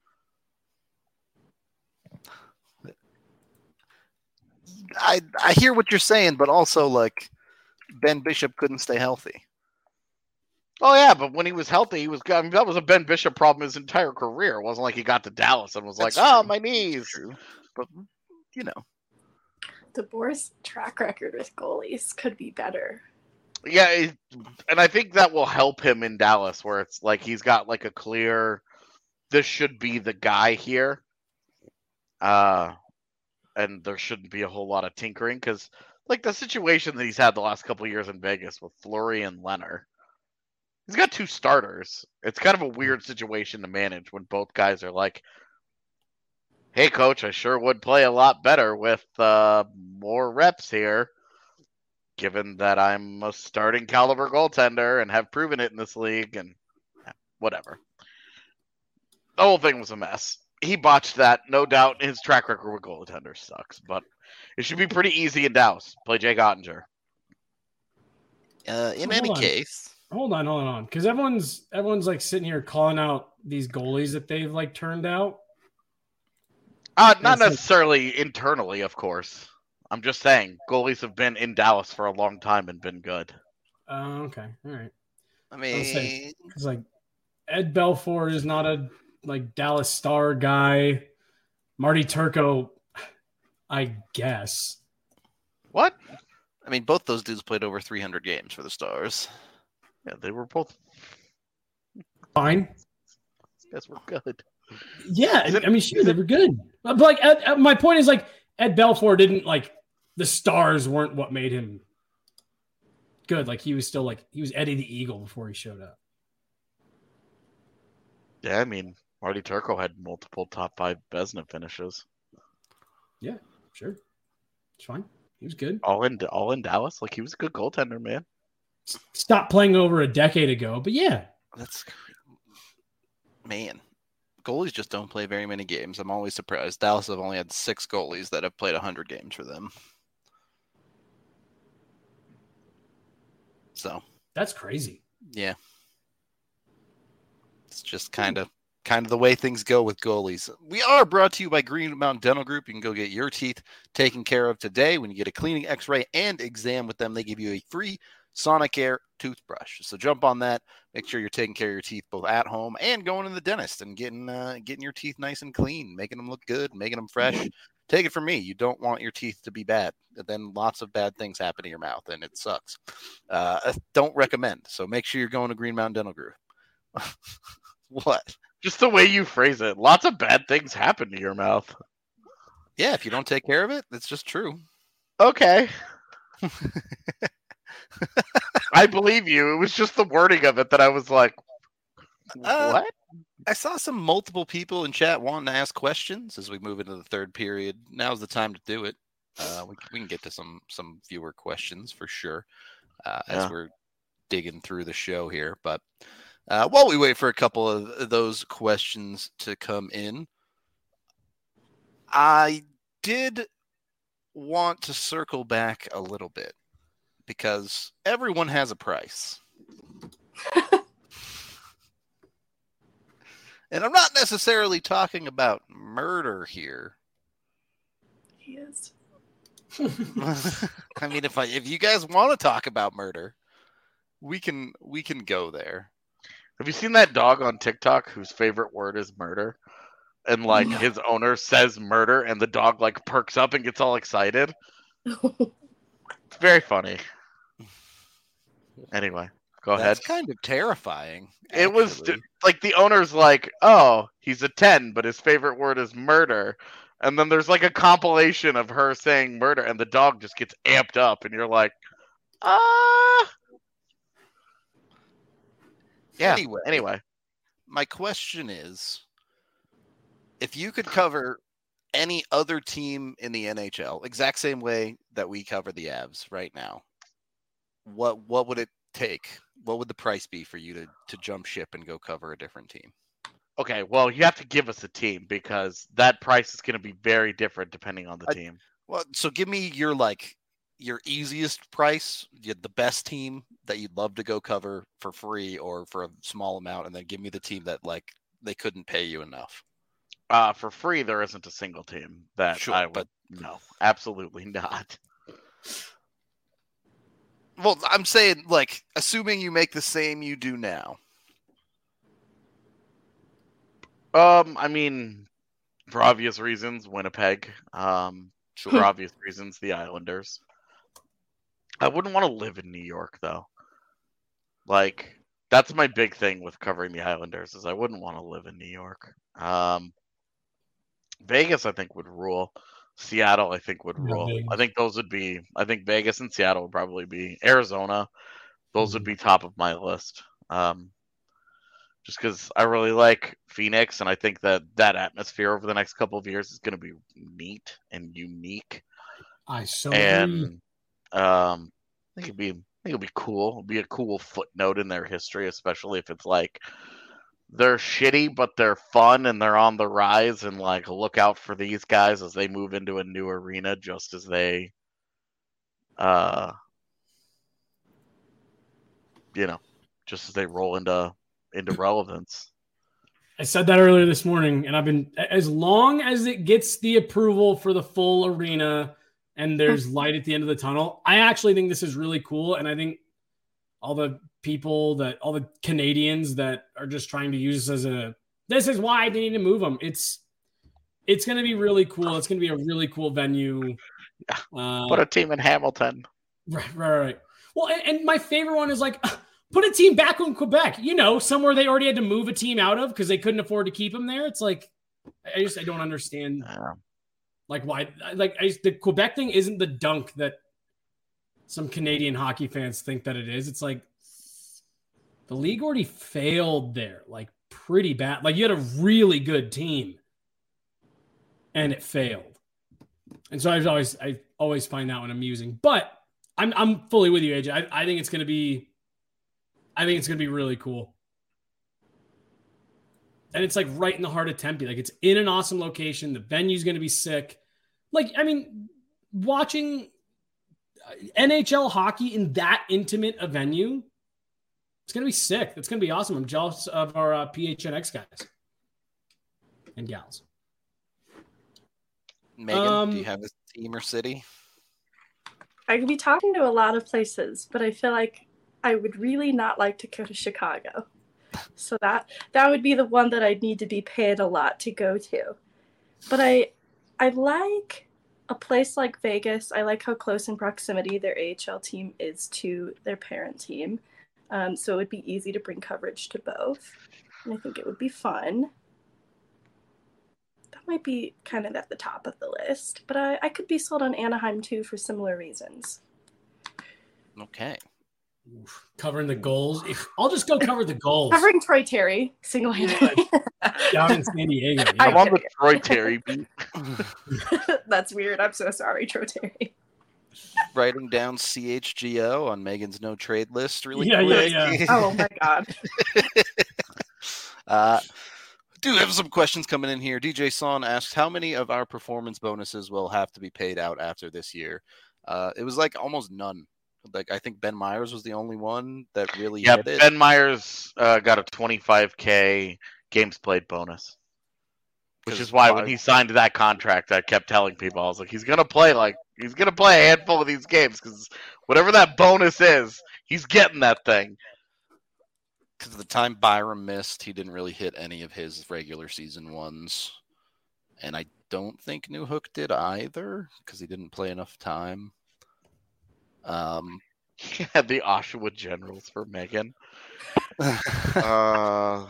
I I hear what you're saying, but also like Ben Bishop couldn't stay healthy. Oh yeah, but when he was healthy, he was. I mean, that was a Ben Bishop problem his entire career. It wasn't like he got to Dallas and was That's like, "Oh, true. my knees." True, but you know, DeBoer's track record with goalies could be better. Yeah, it, and I think that will help him in Dallas, where it's like he's got like a clear, this should be the guy here, uh, and there shouldn't be a whole lot of tinkering because, like, the situation that he's had the last couple of years in Vegas with Fleury and Leonard, he's got two starters. It's kind of a weird situation to manage when both guys are like, "Hey, coach, I sure would play a lot better with uh, more reps here." Given that I'm a starting caliber goaltender and have proven it in this league, and whatever. The whole thing was a mess. He botched that, no doubt. His track record with goaltenders sucks, but it should be pretty easy in Dallas. Play Jake Ottinger. uh, in Hold any on. case, hold on, hold on, because everyone's everyone's like sitting here calling out these goalies that they've like turned out. Uh, not That's like- necessarily internally, of course. I'm just saying goalies have been in Dallas for a long time and been good. Oh, okay, all right. I I'll mean, say- Because like Ed Belfour is not a like Dallas Star guy. Marty Turco, I guess. What? I mean, both those dudes played over three hundred games for the Stars. Yeah, they were both. Fine. These guys were good. Yeah, I mean, sure, they were good. But like, Ed, Ed- my point is like Ed Belfour didn't like the Stars weren't what made him good. Like he was still like he was Eddie the Eagle before he showed up. Yeah, I mean, Marty Turco had multiple top five Vezina finishes. Yeah, sure, it's fine. He was good. All in, all in Dallas. Like he was a good goaltender, man. Stopped playing over a decade ago, but yeah, That's man. Goalies just don't play very many games. I'm always surprised. Dallas have only had six goalies that have played one hundred games for them. So, that's crazy. yeah. It's just kind of kind of the way things go with goalies. We are brought to you by Green Mountain Dental Group. You can go get your teeth taken care of today. When you get a cleaning, x-ray, and exam with them, they give you a free Sonicare toothbrush. So jump on that. Make sure you're taking care of your teeth both at home and going to the dentist and getting uh, getting your teeth nice and clean, making them look good, making them fresh. Take it from me. You don't want your teeth to be bad. Then lots of bad things happen to your mouth, and it sucks. Uh, don't recommend. So make sure you're going to Green Mountain Dental Group. What? Just the way you phrase it. Lots of bad things happen to your mouth. Yeah, if you don't take care of it, it's just true. Okay. I believe you. It was just the wording of it that I was like, Uh, what? I saw some multiple people in chat wanting to ask questions as we move into the third period. Now's the time to do it. Uh, we, we can get to some some viewer questions for sure uh, as Yeah. we're digging through the show here. But uh, while we wait for a couple of those questions to come in, I did want to circle back a little bit because everyone has a price. And I'm not necessarily talking about murder here. He is. I mean, if I if you guys want to talk about murder, we can we can go there. Have you seen that dog on TikTok whose favorite word is murder? And like No. his owner says murder and the dog like perks up and gets all excited. It's very funny. Anyway, go ahead. That's kind of terrifying. It was actually. like the owner's like, oh, he's a ten, but his favorite word is murder. And then there's like a compilation of her saying murder, and the dog just gets amped up, and you're like, ah. Yeah. Anyway. Anyway. My question is, if you could cover any other team in the N H L, exact same way that we cover the Avs right now, what what would it take? What would the price be for you to to jump ship and go cover a different team? Okay, well, you have to give us a team because that price is going to be very different depending on the I- team. Well, so give me your like your easiest price, y- the best team that you'd love to go cover for free or for a small amount, and then give me the team that like they couldn't pay you enough. Uh, for free, there isn't a single team that Sure, I would. but- No, absolutely not. Well, I'm saying like assuming you make the same you do now. Um, I mean, for obvious reasons, Winnipeg. Um, for obvious reasons, the Islanders. I wouldn't want to live in New York, though. Like, that's my big thing with covering the Islanders is I wouldn't want to live in New York. Um, Vegas, I think, would rule. Seattle, I think, would Yeah, rule. Vegas. I think those would be. I think Vegas and Seattle would probably be. Arizona, those would Mhm. be top of my list. Um, just because I really like Phoenix, and I think that that atmosphere over the next couple of years is going to be neat and unique. I so agree. And um, I think it'd be, I think it'd be cool. It'd be a cool footnote in their history, especially if it's like they're shitty, but they're fun and they're on the rise. And like, look out for these guys as they move into a new arena, just as they, uh, you know, just as they roll into into relevance. I said that earlier this morning, and I've been as long as it gets the approval for the full arena and there's light at the end of the tunnel. I actually think this is really cool, and I think all the people that all the Canadians that are just trying to use this as a this is why they need to move them. It's it's going to be really cool. It's going to be a really cool venue. Uh, Put a team in Hamilton. Right, right, right. Well, and, and my favorite one is like. Put a team back in Quebec, you know, somewhere they already had to move a team out of because they couldn't afford to keep them there. It's like, I just, I don't understand, Yeah. like, why, like, I, the Quebec thing isn't the dunk that some Canadian hockey fans think that it is. It's like, the league already failed there, like, pretty bad. Like, you had a really good team, and it failed. And so I always, I always find that one amusing. But I'm, I'm fully with you, A J. I, I think it's going to be, I think it's going to be really cool. And it's like right in the heart of Tempe. Like it's in an awesome location. The venue's going to be sick. Like, I mean, watching N H L hockey in that intimate a venue, it's going to be sick. It's going to be awesome. I'm jealous of our uh, P H N X guys and gals. Megan, Um, do you have a team or city? I could be talking to a lot of places, but I feel like I would really not like to go to Chicago. So that that would be the one that I'd need to be paid a lot to go to. But I I like a place like Vegas. I like how close in proximity their A H L team is to their parent team. Um, so it would be easy to bring coverage to both. And I think it would be fun. That might be kind of at the top of the list. But I, I could be sold on Anaheim too for similar reasons. Okay. Covering the goals. I'll just go cover the goals. Covering Troy Terry, single-handedly. Down in San Diego. Yeah. I'm on the Troy Terry beat. That's weird. I'm so sorry, Troy Terry. Writing down C H G O on Megan's no trade list really Yeah, quick. yeah, yeah. Oh my god. uh, do have some questions coming in here. D J Son asks, how many of our performance bonuses will have to be paid out after this year? Uh, it was like almost none. Like I think Ben Myers was the only one that really Yeah, hit it. Ben Myers uh, got a twenty-five K games played bonus. Which is why when he signed that contract, I kept telling people, I was like, he's gonna play like he's gonna play a handful of these games because whatever that bonus is, he's getting that thing. Because the time Byram missed, he didn't really hit any of his regular season ones, and I don't think Newhook did either because he didn't play enough time. Um, He had the Oshawa Generals for Megan. uh,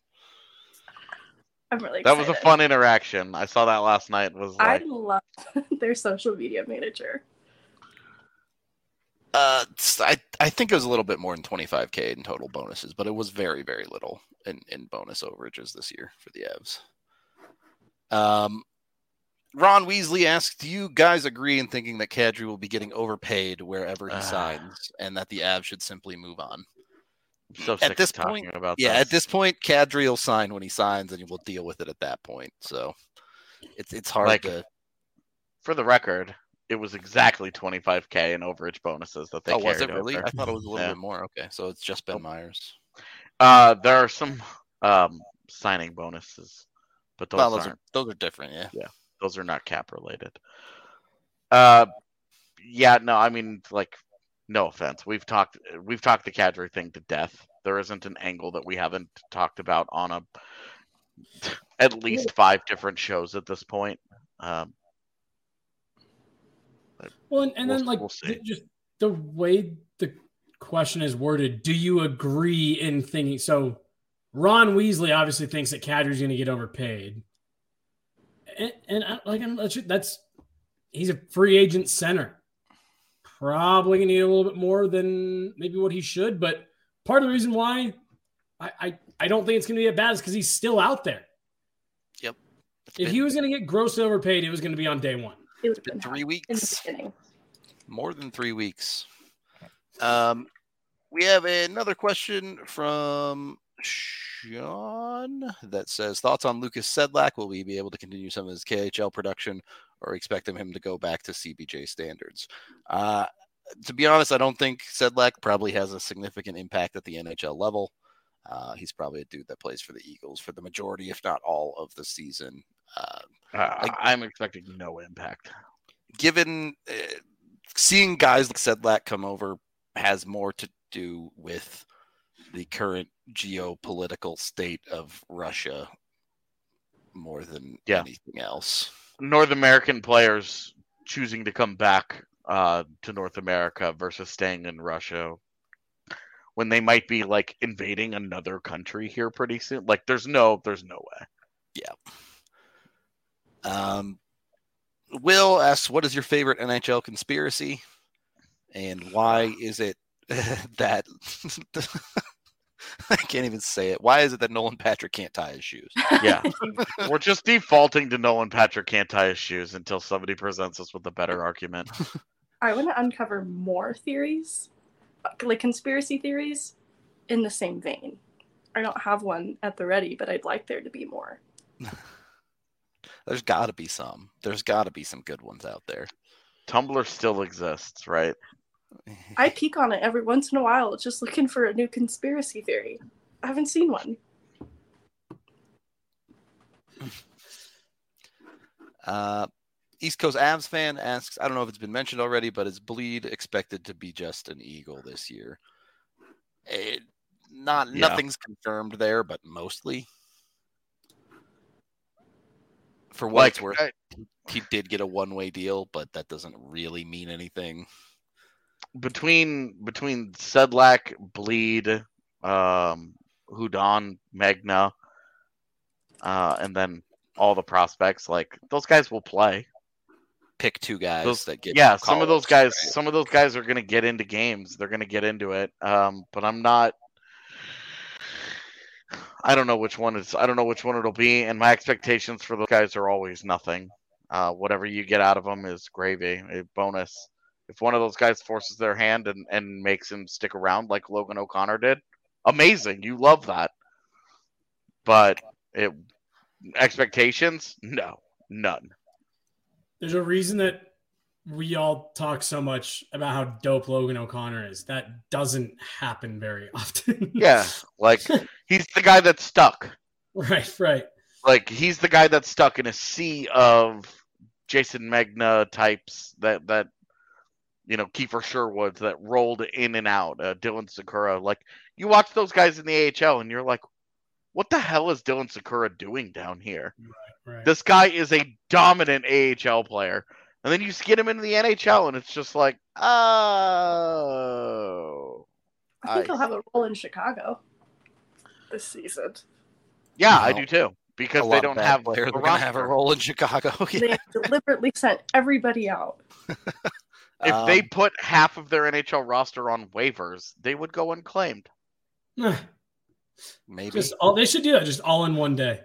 I'm really excited. that was a fun interaction. I saw that last night. Was like, I love their social media manager. Uh, I I think it was a little bit more than twenty-five K in total bonuses, but it was very, very little in, in bonus overages this year for the Avs. Um, Ron Weasley asks, do you guys agree in thinking that Kadri will be getting overpaid wherever he Uh, signs and that the Avs should simply move on? I'm so sick At this of talking point, about yeah, this. at this point, Kadri will sign when he signs and we'll deal with it at that point. So it's it's hard Like, to. For the record, it was exactly twenty-five K in overage bonuses that they Oh, carried was it really? over. I thought it was a little Yeah. bit more. Okay, so it's just Ben Myers. Uh, there are some um, signing bonuses, but those Well, those aren't. are those are different, yeah. Those are not cap related. Uh, yeah, no, I mean, like, no offense. We've talked, we've talked the Kadri thing to death. There isn't an angle that we haven't talked about on a at least five different shows at this point. Um, Well, and, and We'll- then like we'll see. th- just the way the question is worded, do you agree in thinking? So Ron Weasley obviously thinks that Kadri's going to get overpaid, and, and I, like I'm, that's he's a free agent center, probably going to get a little bit more than maybe what he should. But part of the reason why I I, I don't think it's going to be that bad is because he's still out there. Yep. If he was going to get grossly overpaid, it was going to be on day one. It would have been been three in the weeks. beginning. More than three weeks. Um, we have another question from Sean that says, thoughts on Lucas Sedlak? Will we be able to continue some of his K H L production or expect him to go back to C B J standards? Uh, to be honest, I don't think Sedlak probably has a significant impact at the N H L level. Uh, he's probably a dude that plays for the Eagles for the majority, if not all, of the season. Uh, Uh, like- I'm expecting no impact. given uh, seeing guys like Sedlak come over has more to do with the current geopolitical state of Russia more than Yeah. anything else. North American players choosing to come back uh, to North America versus staying in Russia when they might be like invading another country here pretty soon. Like, there's no, there's no way. Um, Will asks, "What is your favorite N H L conspiracy, and why is it that I can't even say it? Why is it that Nolan Patrick can't tie his shoes?" Yeah, we're just defaulting to Nolan Patrick can't tie his shoes until somebody presents us with a better argument. I want to uncover more theories, like conspiracy theories, in the same vein. I don't have one at the ready, but I'd like there to be more. There's got to be some. There's got to be some good ones out there. Tumblr still exists, right? I peek on it every once in a while, just looking for a new conspiracy theory. I haven't seen one. Uh, East Coast Avs fan asks, I don't know if it's been mentioned already, but is Bleed expected to be just an Eagle this year? It, not Yeah. Nothing's confirmed there, but mostly. For what Like, it's worth, I- he did get a one-way deal, but that doesn't really mean anything. between between Sedlak, Bleed, um, Hudon, Magna, uh, and then all the prospects, like those guys will play. Pick two guys Those- that get Yeah, some of those call-ups, guys, right? some of those guys are going to get into games. They're going to get into it. Um, but I'm not. I don't know which one it's. I don't know which one it'll be, and my expectations for those guys are always nothing. Uh, whatever you get out of them is gravy, a bonus. If one of those guys forces their hand and, and makes him stick around like Logan O'Connor did, amazing. You love that. But it expectations, no, none. There's a reason that we all talk so much about how dope Logan O'Connor is. That doesn't happen very often. Yeah, like he's the guy that's stuck. Right, right. Like he's the guy that's stuck in a sea of Jason Magna types that that you know Kiefer Sherwood that rolled in and out. Uh, Dylan Sakura, like you watch those guys in the A H L and you're like, what the hell is Dylan Sakura doing down here? Right. This guy is a dominant A H L player, and then you get him into the N H L and it's just like, oh, I think I- he'll have a role in Chicago this season. yeah, No. I do too. A Because lot they of don't bad have players a are going to have a roster. role in Chicago. They Yeah. deliberately sent everybody out. If they Um, put half of their N H L roster on waivers, they would go unclaimed. maybe. Just all they should do that just all in one day.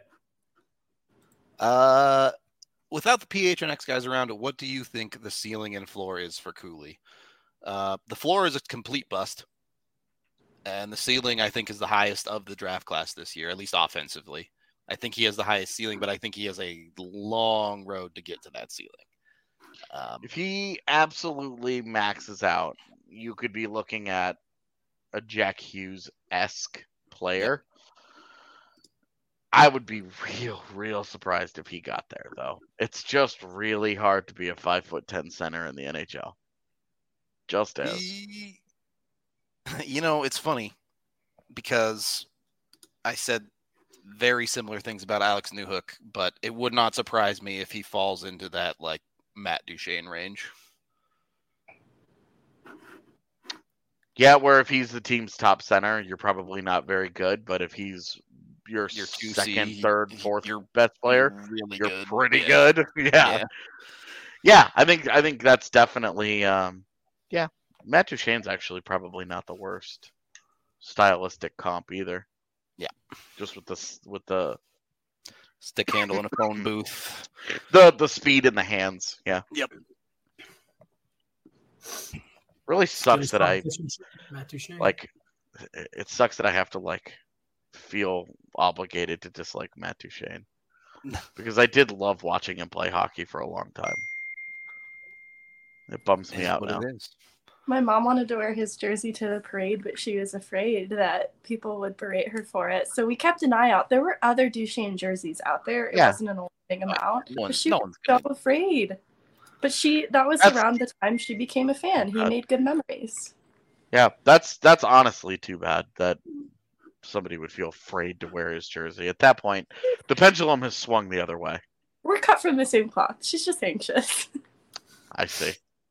Uh, without the P H N X guys around, what do you think the ceiling and floor is for Cooley? Uh, the floor is a complete bust, and the ceiling I think is the highest of the draft class this year, at least offensively. I think he has the highest ceiling, but I think he has a long road to get to that ceiling. Um, If he absolutely maxes out, you could be looking at a Jack Hughes-esque player. I would be real, real surprised if he got there, though. It's just really hard to be a five foot ten center in the N H L. Just is. he- you know, it's funny because I said very similar things about Alex Newhook, but it would not surprise me if he falls into that like Matt Duchene range. Yeah, where if he's the team's top center, you're probably not very good. But if he's your, Your two C, second, third, he- fourth you're best player, really you're good. pretty Yeah. good. Yeah. Yeah. yeah, I think I think that's definitely um, yeah. Matt Duchene's actually probably not the worst stylistic comp either. Yeah. just with the s- with the Stick handle in a phone booth. the the speed in the hands. Yeah, Yep. really sucks that I Matt Duchene. like. It it sucks that I have to like feel obligated to dislike Matt Duchene because I did love watching him play hockey for a long time. It bums It me is out what now. it is. My mom wanted to wear his jersey to the parade, but she was afraid that people would berate her for it. So we kept an eye out. There were other Duchesne jerseys out there. It Yeah. wasn't an big amount. No one- but she no was one's so gonna- afraid. But she that was That's- around the time she became a fan. He Uh, made good memories. Yeah, that's that's honestly too bad that somebody would feel afraid to wear his jersey. At that point, the pendulum has swung the other way. We're cut from the same cloth. She's just anxious. I see.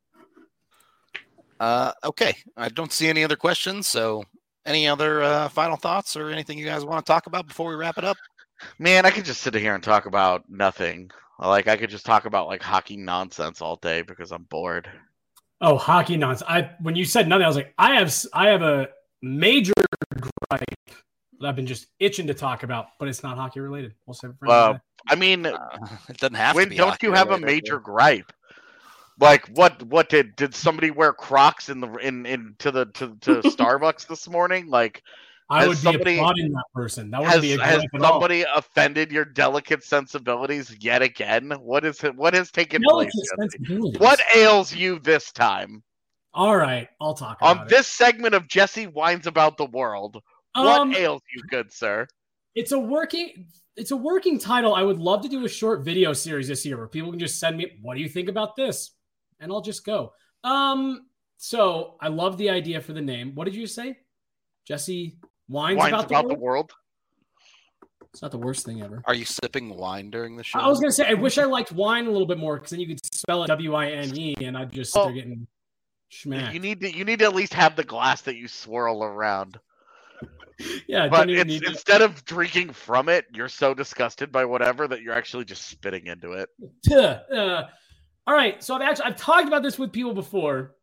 Uh, okay, I don't see any other questions. So, any other uh, final thoughts or anything you guys want to talk about before we wrap it up? Man, I could just sit here and talk about nothing. Like I could just talk about like hockey nonsense all day because I'm bored. Oh, hockey nonsense. I when you said nothing, I was like, I have I have a major gripe that I've been just itching to talk about, but it's not hockey related. We'll save it for Uh, another day. I mean, Uh, it doesn't have when to be. don't hockey you have a related. major gripe? Like what? What did did somebody wear Crocs in the in in to the to, to Starbucks this morning? Like I has would be somebody- applauding that person. That would has be a has gripe at all. somebody offended your delicate sensibilities yet again? What is it? What has taken Delicate place? Jesse? sensibilities. What ails you this time? All right, I'll talk about On it. this segment of Jesse Whines About the World, Um, what ails you, good sir? It's a working it's a working title. I would love to do a short video series this year where people can just send me, what do you think about this? And I'll just go. Um, so I love the idea for the name. What did you say? Jesse Whines, Whines about, about, the, the world? world? It's not the worst thing ever. Are you sipping wine during the show? I was gonna say I wish I liked wine a little bit more because then you could spell it W I N E and I'd just Oh. start getting schmacked. You need to you need to at least have the glass that you swirl around. yeah, I But don't even it's, need instead of drinking from it, you're so disgusted by whatever that you're actually just spitting into it. to. Uh, all right, so I've actually I've talked about this with people before.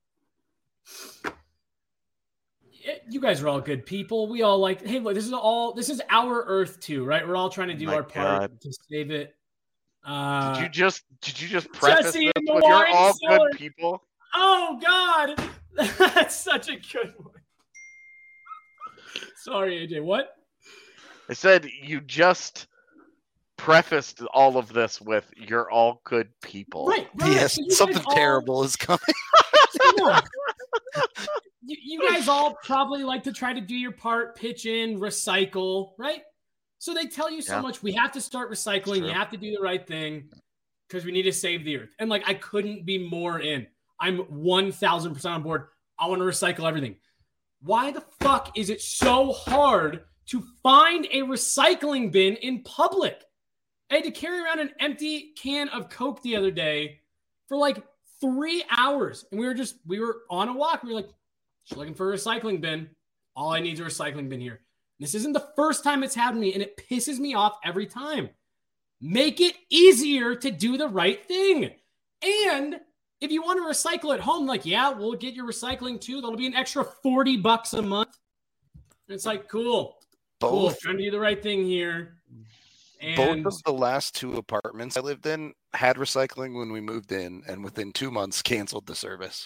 You guys are all good people. We all like, hey, look, this is all this is our Earth too, right? We're all trying to do My our part God. to save it. Uh, Did you just did you just preface Jesse this and the with you're wine all cellar. good people? oh God, that's such a good one. Sorry, A J. What? I said you just prefaced all of this with you're all good people. Right, right. Yes, So you guys something all- terrible is coming. Come on. you, you guys all probably like to try to do your part, pitch in, recycle, right? So they tell you so Yeah. much. We have to start recycling. True. You have to do the right thing because we need to save the earth. And like, I couldn't be more in. I'm one thousand percent on board. I want to recycle everything. Why the fuck is it so hard to find a recycling bin in public? I had to carry around an empty can of Coke the other day for like three hours. And we were just, we were on a walk. We were like, just looking for a recycling bin. All I need is a recycling bin here. This isn't the first time it's happened to me, and it pisses me off every time. Make it easier to do the right thing. And if you want to recycle at home, like, yeah, we'll get your recycling too. That'll be an extra forty bucks a month. And it's like, cool, cool. Both, Trying to do the right thing here. And both of the last two apartments I lived in had recycling when we moved in, and within two months canceled the service.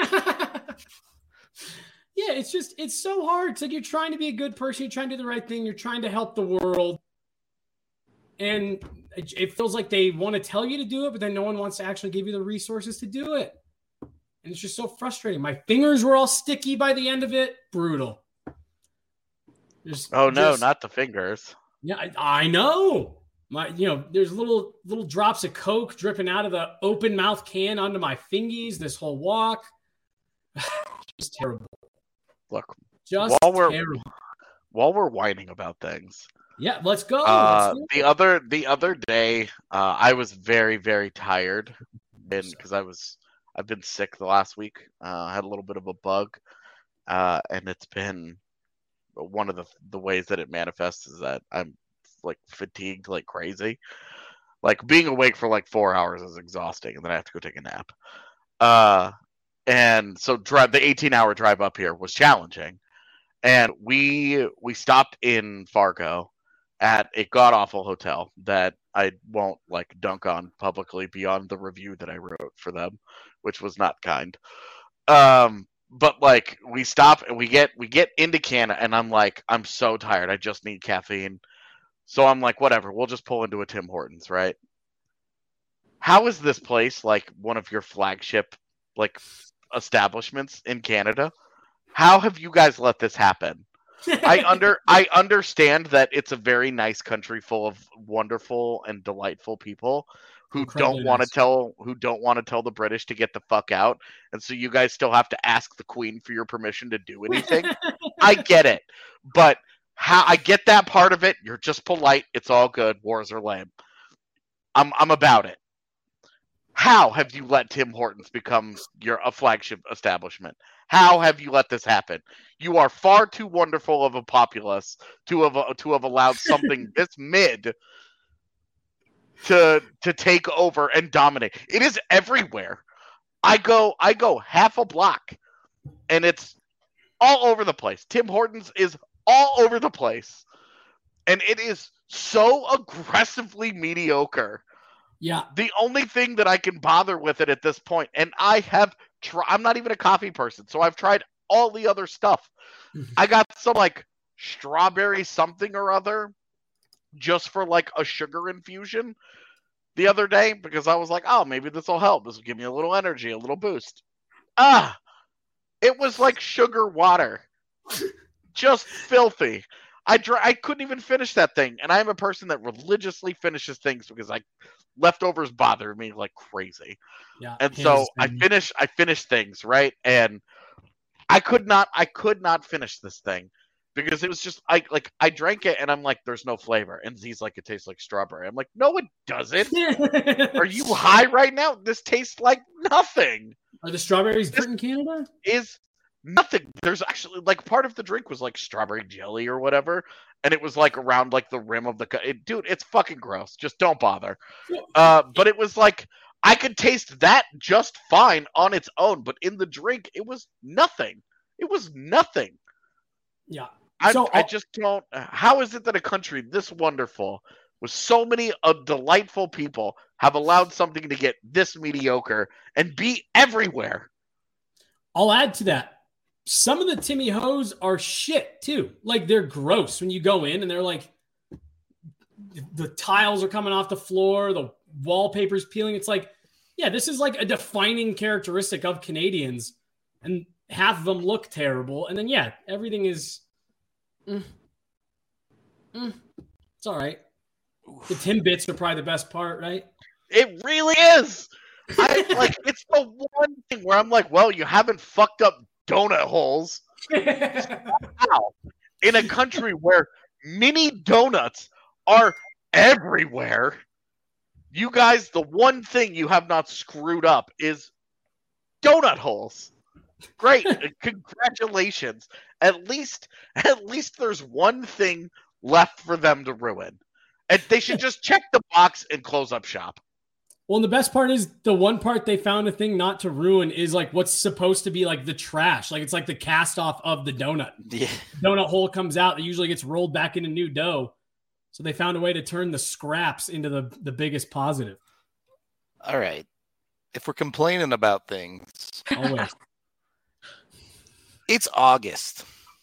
yeah, it's just, it's so hard. It's like you're trying to be a good person. You're trying to do the right thing. You're trying to help the world. And it, it feels like they want to tell you to do it, but then no one wants to actually give you the resources to do it. And it's just so frustrating. My fingers were all sticky by the end of it. Brutal. Just, Oh no, just- not the fingers. Yeah, I, I know. My, you know, there's little little drops of Coke dripping out of the open mouth can onto my fingies this whole walk. Just terrible. Look, Just While we're- terrible. while we're whining about things, Yeah, let's go. uh, Let's do the it. other the other day, uh, I was very very tired, and because I was I've been sick the last week. Uh, I had a little bit of a bug, uh, and it's been one of the the ways that it manifests is that I'm like fatigued like crazy. Like being awake for like four hours is exhausting, and then I have to go take a nap. Uh, and so drive the eighteen hour drive up here was challenging, and we we stopped in Fargo at a god awful hotel that I won't like dunk on publicly beyond the review that I wrote for them, which was not kind. Um, but like we stop and we get we get into Canada, and I'm like, I'm so tired. I just need caffeine. So I'm like, whatever, we'll just pull into a Tim Hortons, right? How is this place like one of your flagship like establishments in Canada. How have you guys let this happen? I under I understand that it's a very nice country full of wonderful and delightful people who Incredibly don't want to nice. tell who don't want to tell the British to get the fuck out, and so you guys still have to ask the Queen for your permission to do anything. I get it, but how I get that part of it. You're just polite. It's all good. Wars are lame. I'm I'm about it. How have you let Tim Hortons become your a flagship establishment? How have you let this happen? You are far too wonderful of a populace to have to have allowed something this mid to to take over and dominate. It is everywhere. I go I go half a block, and it's all over the place. Tim Hortons is all over the place, and it is so aggressively mediocre. Yeah. The only thing that I can bother with it at this point, and I have tried, I'm not even a coffee person, so I've tried all the other stuff. I got some like strawberry something or other just for like a sugar infusion the other day because I was like, oh, maybe this will help. This will give me a little energy, a little boost. Ah, it was like sugar water. Just filthy. I dr- I couldn't even finish that thing, and I'm a person that religiously finishes things because I leftovers bother me like crazy. Yeah. And so I Kansas finish I finish things, right? And I could not I could not finish this thing because it was just I like I drank it and I'm like, there's no flavor. And Z's like, it tastes like strawberry. I'm like, no, it doesn't. City. Are you high right now? This tastes like nothing. Are the strawberries This- good in Canada? Is nothing. There's actually like part of the drink was like strawberry jelly or whatever, and it was like around like the rim of the cu- it, dude. It's fucking gross. Just don't bother. Uh, but it was like I could taste that just fine on its own, but in the drink it was nothing. It was nothing. Yeah. I, So, I uh, just don't. How is it that a country this wonderful, with so many uh, delightful people, have allowed something to get this mediocre and be everywhere? I'll add to that. Some of the Timmy Hoes are shit too. Like they're gross when you go in and they're like the tiles are coming off the floor, the wallpaper's peeling. It's like, yeah, this is like a defining characteristic of Canadians, and half of them look terrible. And then yeah, everything is mm, mm, it's all right. The Timbits are probably the best part, right? It really is. I like it's the one thing where I'm like, well, you haven't fucked up donut holes. How? In a country where mini donuts are everywhere, you guys, the one thing you have not screwed up is donut holes. Great. Congratulations. At least at least there's one thing left for them to ruin. And they should just check the box and close up shop. Well, and the best part is the one part they found a thing not to ruin is like what's supposed to be like the trash. Like it's like the cast off of the donut. Yeah. Donut hole comes out. It usually gets rolled back into new dough. So they found a way to turn the scraps into the, the biggest positive. All right. If we're complaining about things, Always. it's August.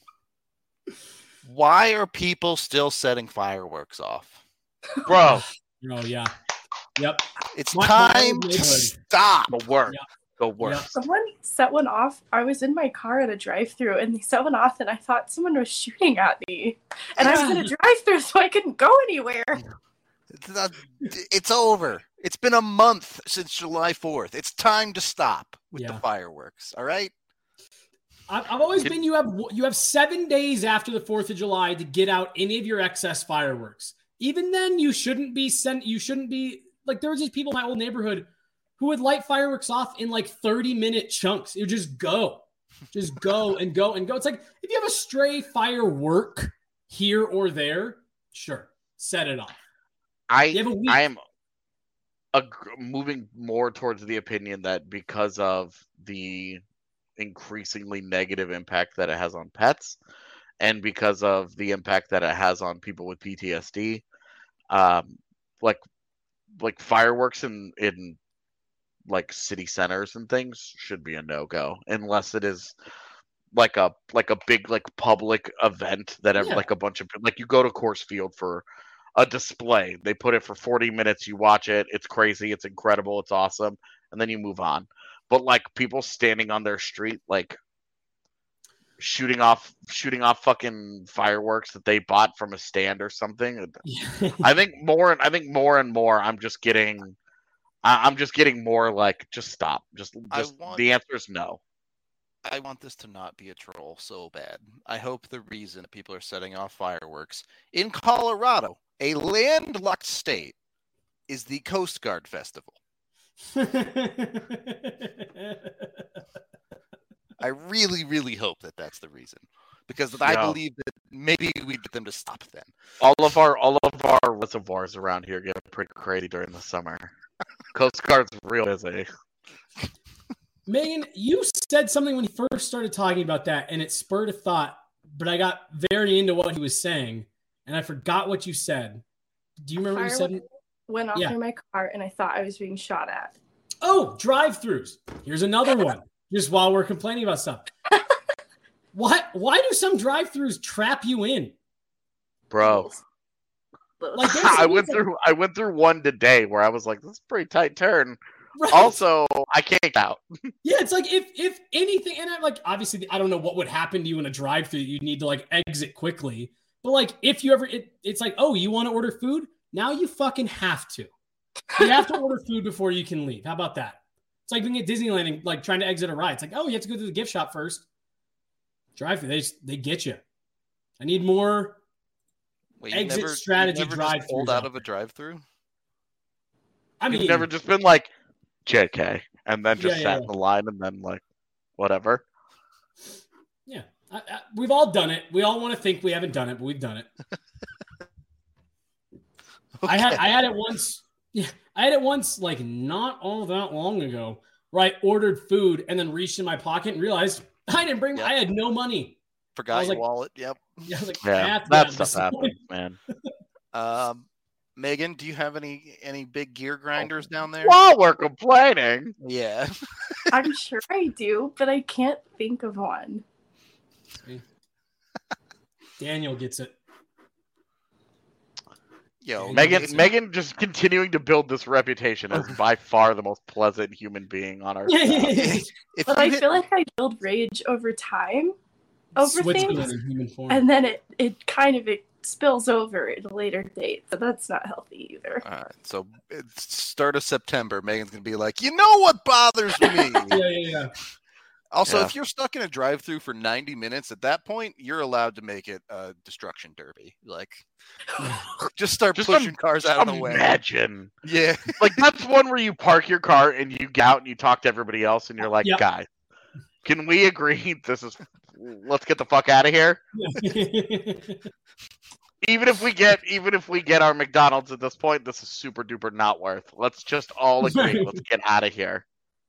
Why are people still setting fireworks off? Bro, Oh, yeah. Yep. It's My- my time old to neighborhood. stop. the work. Yeah. The work. Yeah. Someone set one off. I was in my car at a drive-through, and they set one off, and I thought someone was shooting at me. And I was in a drive-through, so I couldn't go anywhere. It's, not, it's over. It's been a month since July fourth. It's time to stop with the Yeah. fireworks. All right. I've, I've always It- been you have you have seven days after the fourth of July to get out any of your excess fireworks. Even then, you shouldn't be sent. You shouldn't be like there was these people in my old neighborhood who would light fireworks off in like thirty minute chunks. It would just go, just go and go and go. It's like if you have a stray firework here or there, sure, set it off. I You have a week. I am ag- moving more towards the opinion that because of the increasingly negative impact that it has on pets, and because of the impact that it has on people with P T S D, um, like like fireworks in in like city centers and things should be a no-go unless it is like a like a big like public event that ever Yeah. like a bunch of like you go to Coors Field for a display. They put it for forty minutes, you watch it, it's crazy, it's incredible, it's awesome, and then you move on. but like people standing on their street, like shooting off shooting off fucking fireworks that they bought from a stand or something. I think more and I think more and more I'm just getting I, I'm just getting more like just stop. Just just want, the answer is no. I want this to not be a troll so bad. I hope the reason that people are setting off fireworks in Colorado, a landlocked state, is the Coast Guard Festival. I really, really hope that that's the reason, because I Yeah. believe that maybe we get them to stop then. All of our all of our reservoirs around here get pretty crazy during the summer. Coast Guard's real busy. Megan, you said something when you first started talking about that, and it spurred a thought, but I got very into what he was saying, and I forgot what you said. Do you remember what you said? Went off Yeah. in my car, and I thought I was being shot at. Oh, drive-thrus. Here's another one. Just while we're complaining about stuff. Why, why do some drive-thrus trap you in? Bro. Like, there's I some went that- through I went through one today where I was like, this is a pretty tight turn. Right. Also, I can't get out. Yeah, it's like if if anything, and I like obviously I don't know what would happen to you in a drive-thru. You'd need to like exit quickly. But like if you ever, it, it's like, oh, you want to order food? Now you fucking have to. You have to order food before you can leave. How about that? It's like being at Disneyland and like trying to exit a ride. It's like, oh, you have to go to the gift shop first. Drive-thru, they just, they get you. I need more. Wait, Exit you never, strategy you never just drive-thrus pulled out out of a there. drive-through? I mean, You've never just been like J K and then just Yeah, yeah, sat in the line and then like whatever. yeah, I, I, we've all done it. We all want to think we haven't done it, but we've done it. I had I had it once. Yeah, I had it once, like not all that long ago, where I ordered food and then reached in my pocket and realized I didn't bring. Yep. I had no money. I Forgot was your like- wallet. Yep. Yeah, I was like, Yeah, "That's that not stuff this." happens, man. Um, Megan, do you have any any big gear grinders down there? While we're complaining, Yeah. I'm sure I do, but I can't think of one. Daniel gets it. Yo, Megan Listen. Megan just continuing to build this reputation as by far the most pleasant human being on our Yeah, yeah, staff. yeah. if But you I hit- feel like I build rage over time over Switzerland things, in human form. and then it, it kind of it spills over at a later date. So that's not healthy either. All right, so it's start of September, Megan's gonna be like, you know what bothers me? yeah, yeah, yeah. Also, Yeah. if you're stuck in a drive-through for ninety minutes, at that point, you're allowed to make it a destruction derby. Like, just start Just pushing im- cars out of the way. Imagine. Yeah, Like that's one where you park your car and you get out and you talk to everybody else and you're like, Yep. guys, can we agree this is let's get the fuck out of here? Even if we get even if we get our McDonald's at this point, this is super duper not worth. Let's just all agree. Let's get out of here.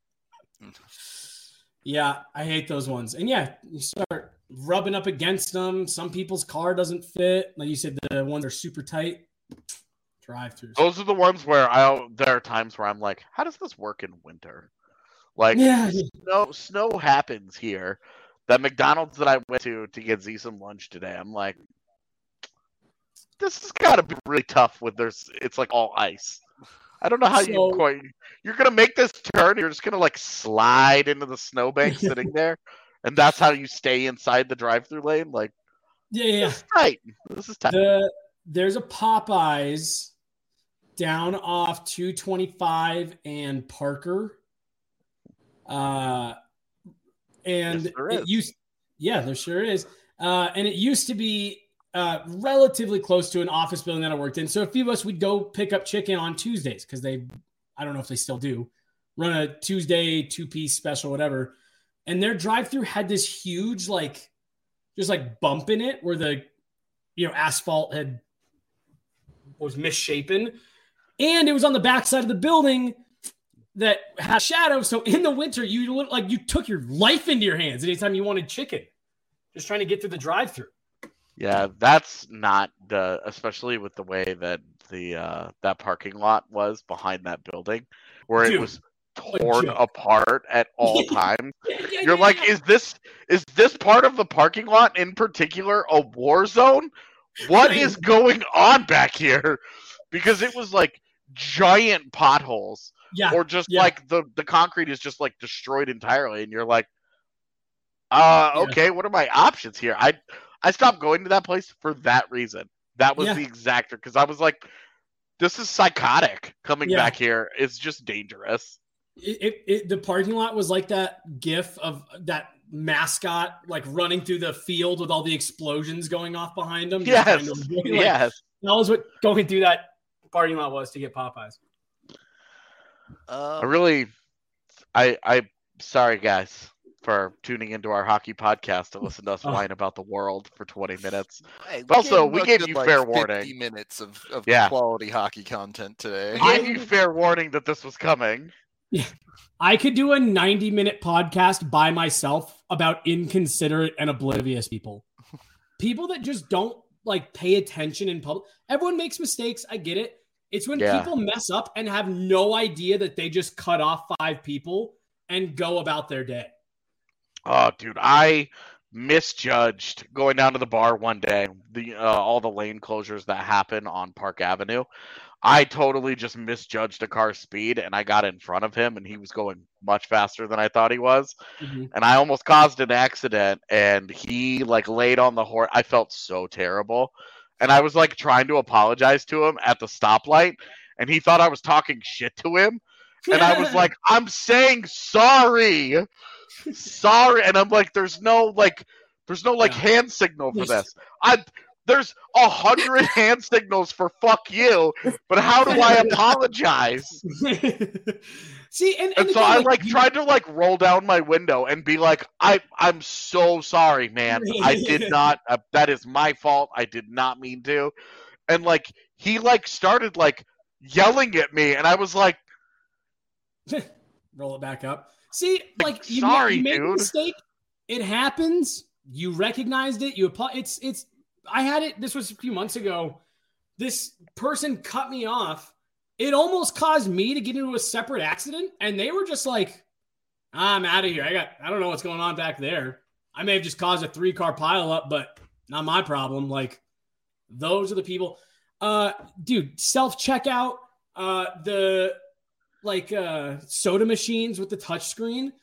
Yeah, I hate those ones. And yeah, you start rubbing up against them. Some people's car doesn't fit. Like you said, the ones that are super tight. Drive-throughs. Those are the ones where I there are times where I'm like, how does this work in winter? Like Yeah. snow snow happens here. That McDonald's that I went to to get Z some lunch today, I'm like, this has got to be really tough with there's it's like all ice. I don't know how So- you quite you're gonna make this turn. You're just gonna like slide into the snowbank sitting there, and that's how you stay inside the drive-through lane. Like Yeah, yeah, yeah. this is tight. This is tight. The, there's a Popeyes down off two twenty-five and Parker. Uh, and Yes, there it is. used, yeah, there sure is. Uh, and it used to be uh, relatively close to an office building that I worked in. So a few of us would go pick up chicken on Tuesdays because they, I don't know if they still do, run a Tuesday two-piece special, whatever. And their drive-through had this huge, like, just like bump in it where the, you know, asphalt had was misshapen, and it was on the backside of the building that had shadow. So in the winter, you look like you took your life into your hands anytime you wanted chicken, just trying to get through the drive-through. Yeah, that's not the especially with the way that the uh that parking lot was behind that building, where Dude, it was torn joke. apart at all times. Yeah, yeah, You're yeah, like, yeah. is this is this part of the parking lot in particular a war zone? What Right. is going on back here? Because it was like giant potholes Yeah, or just yeah. like the the concrete is just like destroyed entirely, and you're like, uh, Yeah. okay, what are my options here? I I stopped going to that place for that reason. That was Yeah. the exact because I was like, this is psychotic. Coming Yeah. back here, it's just dangerous. It, it, it the parking lot was like that gif of that mascot like running through the field with all the explosions going off behind him. just Yes, trying to avoid, like, yes. That was what going through that parking lot was to get Popeyes. Um, I really, I I sorry guys for tuning into our hockey podcast to listen to us Oh. whine about the world for twenty minutes. hey, But also, him we a gave good, you like, fair fifty warning. minutes of, of Yeah. quality hockey content today. We I- gave you fair warning that this was coming. I could do a ninety minute podcast by myself about inconsiderate and oblivious people. People that just don't like pay attention in public. Everyone makes mistakes. I get it. It's when Yeah. people mess up and have no idea that they just cut off five people and go about their day. Oh, dude, I misjudged going down to the bar one day. The uh, all the lane closures that happen on Park Avenue. I totally just misjudged a car's speed, and I got in front of him, and he was going much faster than I thought he was, Mhm. and I almost caused an accident. And he like laid on the horn. I felt so terrible, and I was like trying to apologize to him at the stoplight, and he thought I was talking shit to him. And I was like, I'm saying sorry. Sorry. And I'm like, there's no like there's no like Yeah. hand signal for this. I there's a hundred hand signals for fuck you, but how do I apologize? See, and, and, And so again, I like, like you- tried to like roll down my window and be like, I I'm so sorry, man. I did not uh, that is my fault. I did not mean to. And like he like started like yelling at me, and I was like, roll it back up. See, like you, sorry, made, you made a dude. mistake. It happens. You recognized it. You apo- it's it's. I had it. This was a few months ago. This person cut me off. It almost caused me to get into a separate accident, and they were just like, "I'm out of here. I got. I don't know what's going on back there. I may have just caused a three car pileup, but not my problem." Like, those are the people. Uh, dude, self checkout. Uh, the like uh soda machines with the touch screen.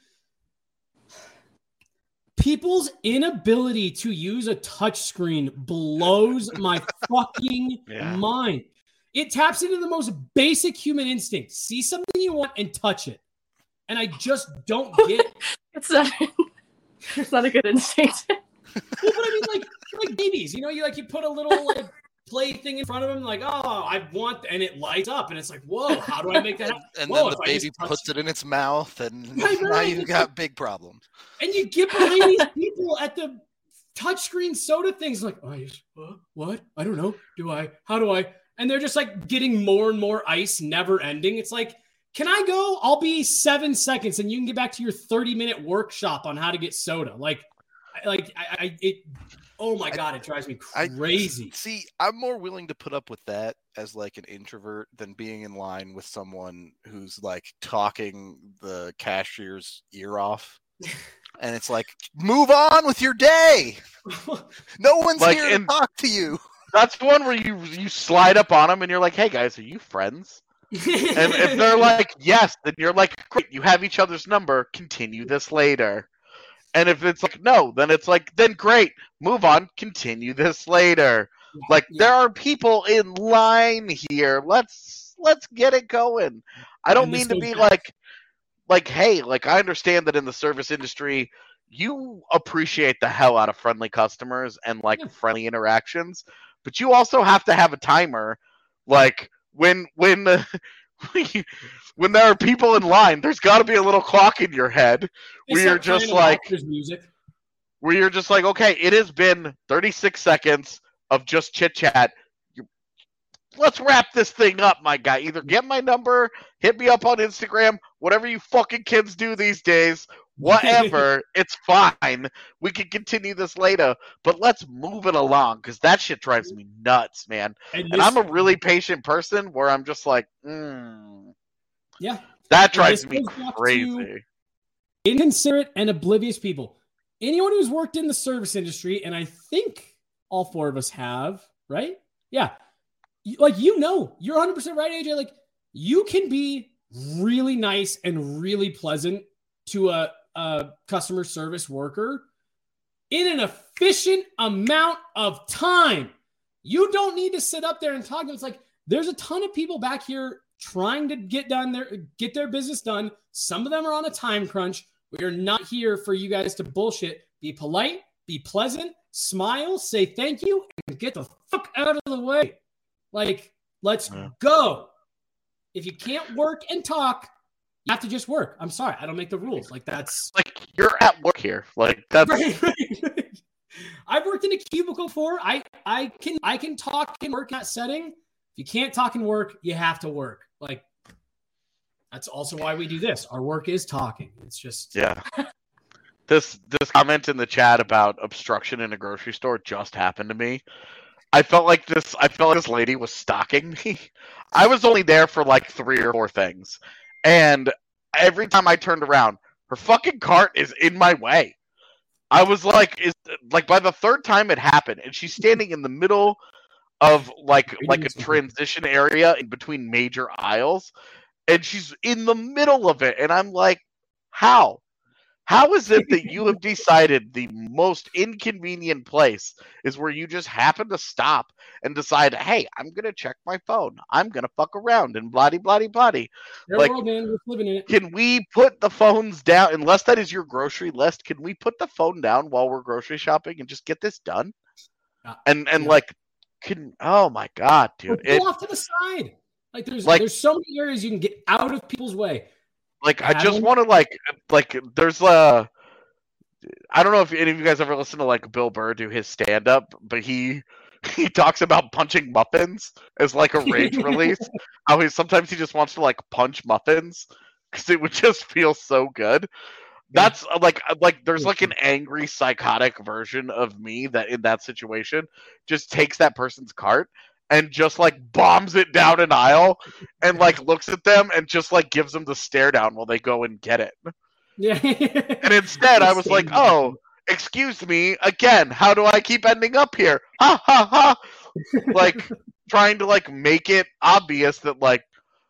People's inability to use a touch screen blows my fucking Yeah. mind. It taps into the most basic human instinct. See something you want and touch it. And I just don't get it. It's not. It's not a good instinct. Well, but I mean, like, like babies, you know, you like you put a little like play thing in front of them, like, oh, I want, and it lights up, and it's like, whoa, how do I make that happen? And Whoa, then if the I just baby touch- puts it in its mouth, and Right, now right. you've got big problems. And you get behind these people at the touchscreen soda things, like, oh, yes, what? what? I don't know. Do I? How do I? And they're just like getting more and more ice, never ending. It's like, can I go? I'll be seven seconds, and you can get back to your thirty minute workshop on how to get soda. Like, I, like I, I it. Oh my god, it drives me I- crazy. See, I'm more willing to put up with that as like an introvert than being in line with someone who's like talking the cashier's ear off. And it's like, move on with your day. No one's Like, here in- to talk to you. That's the one where you you slide up on them and you're like, hey guys, are you friends? And if they're like, yes, then you're like, great, you have each other's number, continue this later. And if it's like, no, then it's like, then great, move on, continue this later. Like, yeah. there are people in line here. Let's let's get it going. I don't And this mean to goes be back- like, like, hey, like, I understand that in the service industry, you appreciate the hell out of friendly customers and like Yeah. friendly interactions, but you also have to have a timer. Like, when when uh, when there are people in line, there's got to be a little clock in your head They where you're start playing just the like, Walker's music. where you're just like, okay, it has been thirty-six seconds of just chit chat. Let's wrap this thing up, my guy. Either get my number, hit me up on Instagram, whatever you fucking kids do these days. Whatever, it's fine. We can continue this later, but let's move it along because that shit drives me nuts, man. And, And this- I'm a really patient person where I'm just like, mm, yeah. that drives this me goes back to- crazy. Inconsiderate and oblivious people. Anyone who's worked in the service industry, and I think all four of us have, right? Yeah. You- Like, you know, you're one hundred percent right, A J. Like, you can be really nice and really pleasant to a, a customer service worker in an efficient amount of time. You don't need to sit up there and talk. It's like there's a ton of people back here trying to get done their get their business done. Some of them are on a time crunch. We are not here for you guys to bullshit. Be polite, be pleasant, smile, say thank you, and get the fuck out of the way. Like, let's yeah. go. If you can't work and talk, you have to just work. I'm sorry, I don't make the rules. Like that's like you're at work here. Like that's. Right, right. I've worked in a cubicle before. I I can I can talk and work in that setting. If you can't talk and work, you have to work. Like that's also why we do this. Our work is talking. It's just yeah. This this comment in the chat about obstruction in a grocery store just happened to me. I felt like this. I felt like this lady was stalking me. I was only there for like three or four things, and every time I turned around, her fucking cart is in my way. I was like, is like by the third time it happened, and she's standing in the middle of like like a transition area in between major aisles, and she's in the middle of it, and I'm like, how? How is it that you have decided the most inconvenient place is where you just happen to stop and decide, hey, I'm going to check my phone. I'm going to fuck around and blah, blah, blah. Like, world, man. We're living in it. Can we put the phones down? Unless that is your grocery list, can we put the phone down while we're grocery shopping and just get this done? Uh, and and yeah. like, can oh my God, dude. Pull off to the side. Like there's like, there's so many areas you can get out of people's way. Like, I just want to, like, like, there's, uh, I don't know if any of you guys ever listen to, like, Bill Burr do his stand-up, but he, he talks about punching muffins as, like, a rage release. How he, sometimes he just wants to, like, punch muffins, because it would just feel so good. That's, uh, like, like, there's, like, an angry, psychotic version of me that, in that situation, just takes that person's cart and just like bombs it down an aisle and like looks at them and just like gives them the stare down while they go and get it. Yeah. And instead I was like, oh, excuse me, again, how do I keep ending up here? Ha ha ha. Like trying to like make it obvious that like,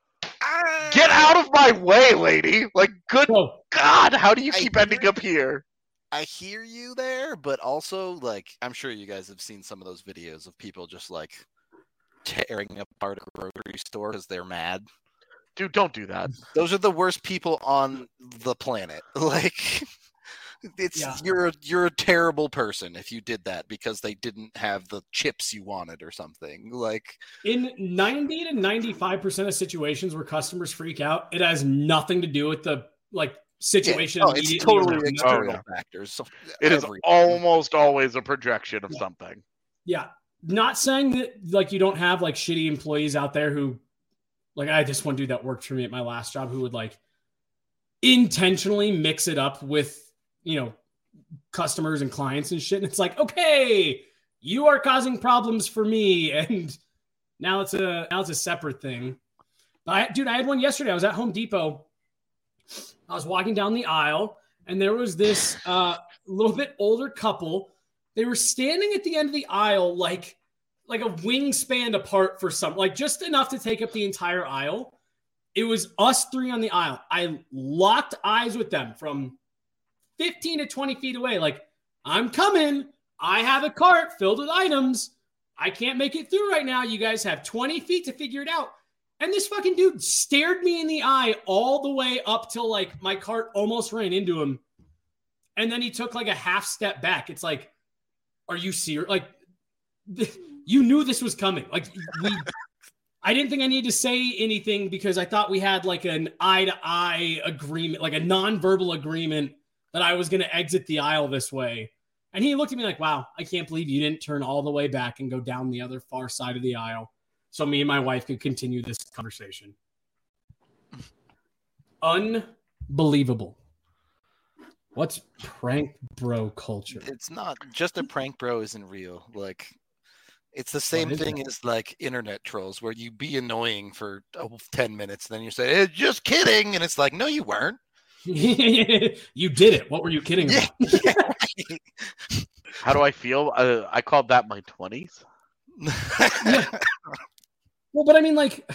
get out of my way, lady. Like, good oh. God, how do you keep I ending up here? I hear you there, but also like, I'm sure you guys have seen some of those videos of people just like tearing apart a grocery store because they're mad. Dude, don't do that. Those are the worst people on the planet. Like, it's yeah. you're a, you're a terrible person if you did that because they didn't have the chips you wanted or something. Like, in ninety to ninety-five percent of situations where customers freak out, it has nothing to do with the like situation. Yeah. Oh, it's totally external oh, yeah. factors. So it everything. Is almost always a projection of yeah. something. Yeah. Not saying that like you don't have like shitty employees out there who like I had this one dude that worked for me at my last job who would like intentionally mix it up with, you know, customers and clients and shit. And it's like, okay, you are causing problems for me. And now it's a now it's a separate thing. I dude, I had one yesterday. I was at Home Depot. I was walking down the aisle and there was this uh little bit older couple. They were standing at the end of the aisle, like, like a wingspan apart for some, like just enough to take up the entire aisle. It was us three on the aisle. I locked eyes with them from fifteen to twenty feet away. Like, I'm coming. I have a cart filled with items. I can't make it through right now. You guys have twenty feet to figure it out. And this fucking dude stared me in the eye all the way up till like my cart almost ran into him. And then he took like a half step back. It's like, are you serious? Like, th- you knew this was coming. Like, we, I didn't think I needed to say anything because I thought we had like an eye-to-eye agreement, like a non-verbal agreement that I was going to exit the aisle this way. And he looked at me like, wow, I can't believe you didn't turn all the way back and go down the other far side of the aisle so me and my wife could continue this conversation. Unbelievable. What's prank bro culture? It's not just a prank bro isn't real. Like, it's the same thing that? as like internet trolls where you be annoying for oh, ten minutes. And then you say, hey, just kidding. And it's like, no, you weren't. You did it. What were you kidding about? Yeah, yeah. How do I feel? Uh, I called that my twenties. Yeah. Well, but I mean, like,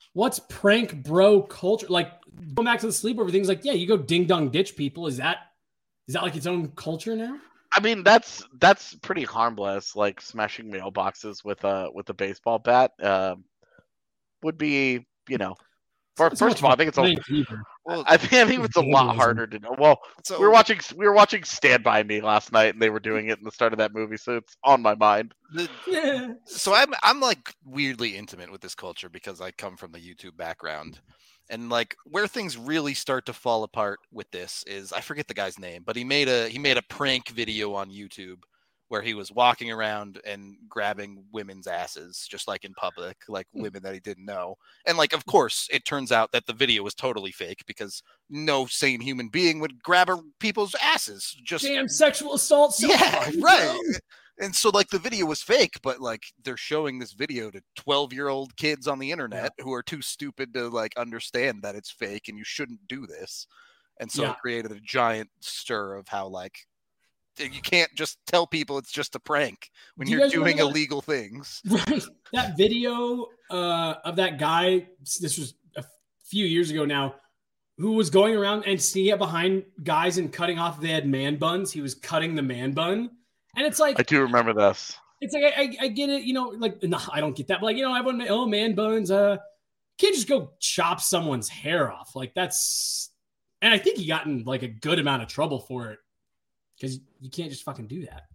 what's prank bro culture? Like going back to the sleepover things, like, yeah, you go ding dong ditch people. Is that is that like its own culture now? I mean, that's that's pretty harmless. Like smashing mailboxes with a with a baseball bat uh, would be, you know. For, It's first of all, I think it's a. Well, I think, I think it's a lot harder to know. Well, so, we were watching we were watching Stand By Me last night, and they were doing it in the start of that movie, so it's on my mind. the, Yeah. so I'm I'm like weirdly intimate with this culture because I come from the YouTube background, and like where things really start to fall apart with this is I forget the guy's name, but he made a he made a prank video on YouTube where he was walking around and grabbing women's asses just like in public, like women that he didn't know. And like, of course, it turns out that the video was totally fake because no sane human being would grab a, people's asses. Just damn sexual assault. So yeah, fun, right. bro. And so like the video was fake, but like they're showing this video to twelve year old kids on the internet yeah. who are too stupid to like understand that it's fake and you shouldn't do this. And so yeah. it created a giant stir of how like, you can't just tell people it's just a prank when Do you're you doing illegal things. Right. That video uh, of that guy, this was a few years ago now, who was going around and sneaking up behind guys and cutting off if they had man buns. He was cutting the man bun. And it's like... I do remember this. It's like, I, I, I get it, you know, like, no, I don't get that. But like, you know, everyone, oh, man buns. Uh, can't just go chop someone's hair off. Like that's... And I think he got in like a good amount of trouble for it. Because you can't just fucking do that.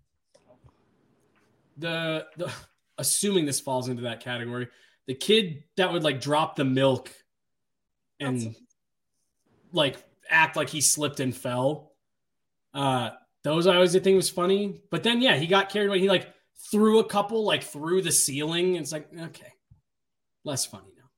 The, the assuming this falls into that category, the kid that would like drop the milk and That's... like act like he slipped and fell. Uh, those I always did think was funny. But then yeah, he got carried away. He like threw a couple like through the ceiling. And it's like, okay, less funny now.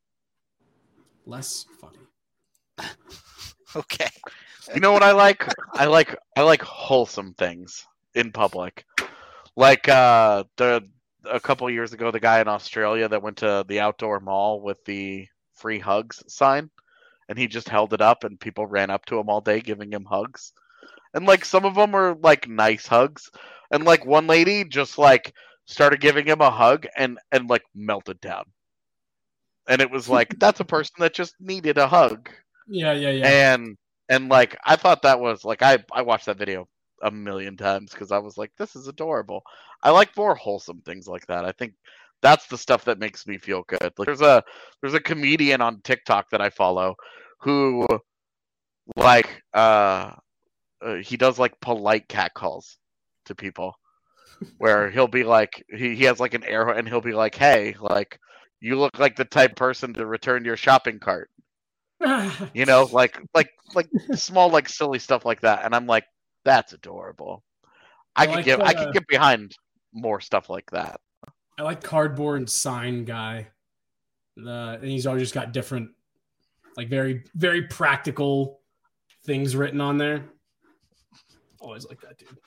Less funny. Okay. You know what I like? I like I like wholesome things in public. Like uh, the a couple of years ago, the guy in Australia that went to the outdoor mall with the free hugs sign, and he just held it up, and people ran up to him all day giving him hugs. And like some of them were like nice hugs, and like one lady just like started giving him a hug and and like melted down. And it was like that's a person that just needed a hug. Yeah, yeah, yeah. And And, like, I thought that was, like, I, I watched that video a million times because I was like, this is adorable. I like more wholesome things like that. I think that's the stuff that makes me feel good. Like, there's a there's a comedian on TikTok that I follow who, like, uh, uh he does, like, polite catcalls to people where he'll be like, he, he has, like, an arrow and he'll be like, hey, like, you look like the type of person to return your shopping cart. You know, like like like small like silly stuff like that, and I'm like, that's adorable. I, I could like get the, I could get behind more stuff like that. I like cardboard sign guy, the and he's always just got different, like very very practical things written on there. Always like that dude.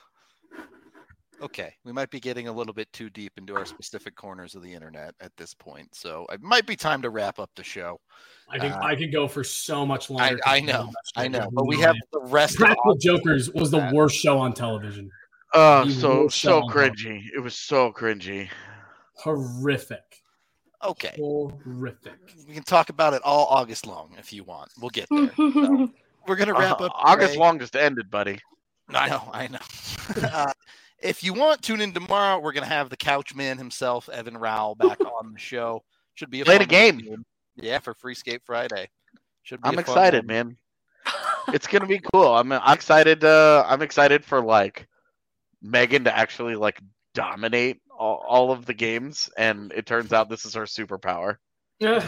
Okay, we might be getting a little bit too deep into our specific corners of the internet at this point, so it might be time to wrap up the show. I could uh, I could go for so much longer. I, I know, I know, but we have the rest. Practical Jokers was the worst show on television. Oh, uh, so so cringy. It was so cringy. Horrific. Okay. Horrific. We can talk about it all August long if you want. We'll get there. So we're gonna wrap uh, up. August long just ended, buddy. I know, I know. uh, If you want, tune in tomorrow. We're going to have the couch man himself, Evan Rowell, back on the show. Should be a Play fun the game. Game. Yeah, for Freescape Friday. Should be I'm a excited, fun man. It's going to be cool. I'm I'm excited uh I'm excited for like Megan to actually like dominate all, all of the games, and it turns out this is her superpower. I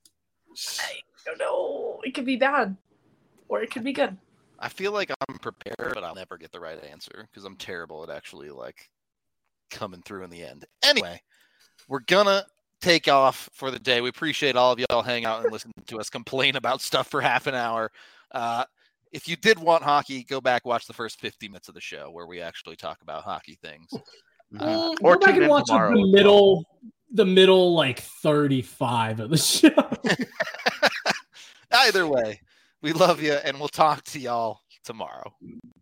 don't know. It could be bad. Or it could be good. I feel like I'm prepared, but I'll never get the right answer because I'm terrible at actually like coming through in the end. Anyway, we're gonna take off for the day. We appreciate all of y'all hanging out and listening to us complain about stuff for half an hour. Uh, if you did want hockey, go back watch the first fifty minutes of the show where we actually talk about hockey things. Uh, or go back and watch the middle, the middle like thirty-five of the show. Either way. We love you, and we'll talk to y'all tomorrow.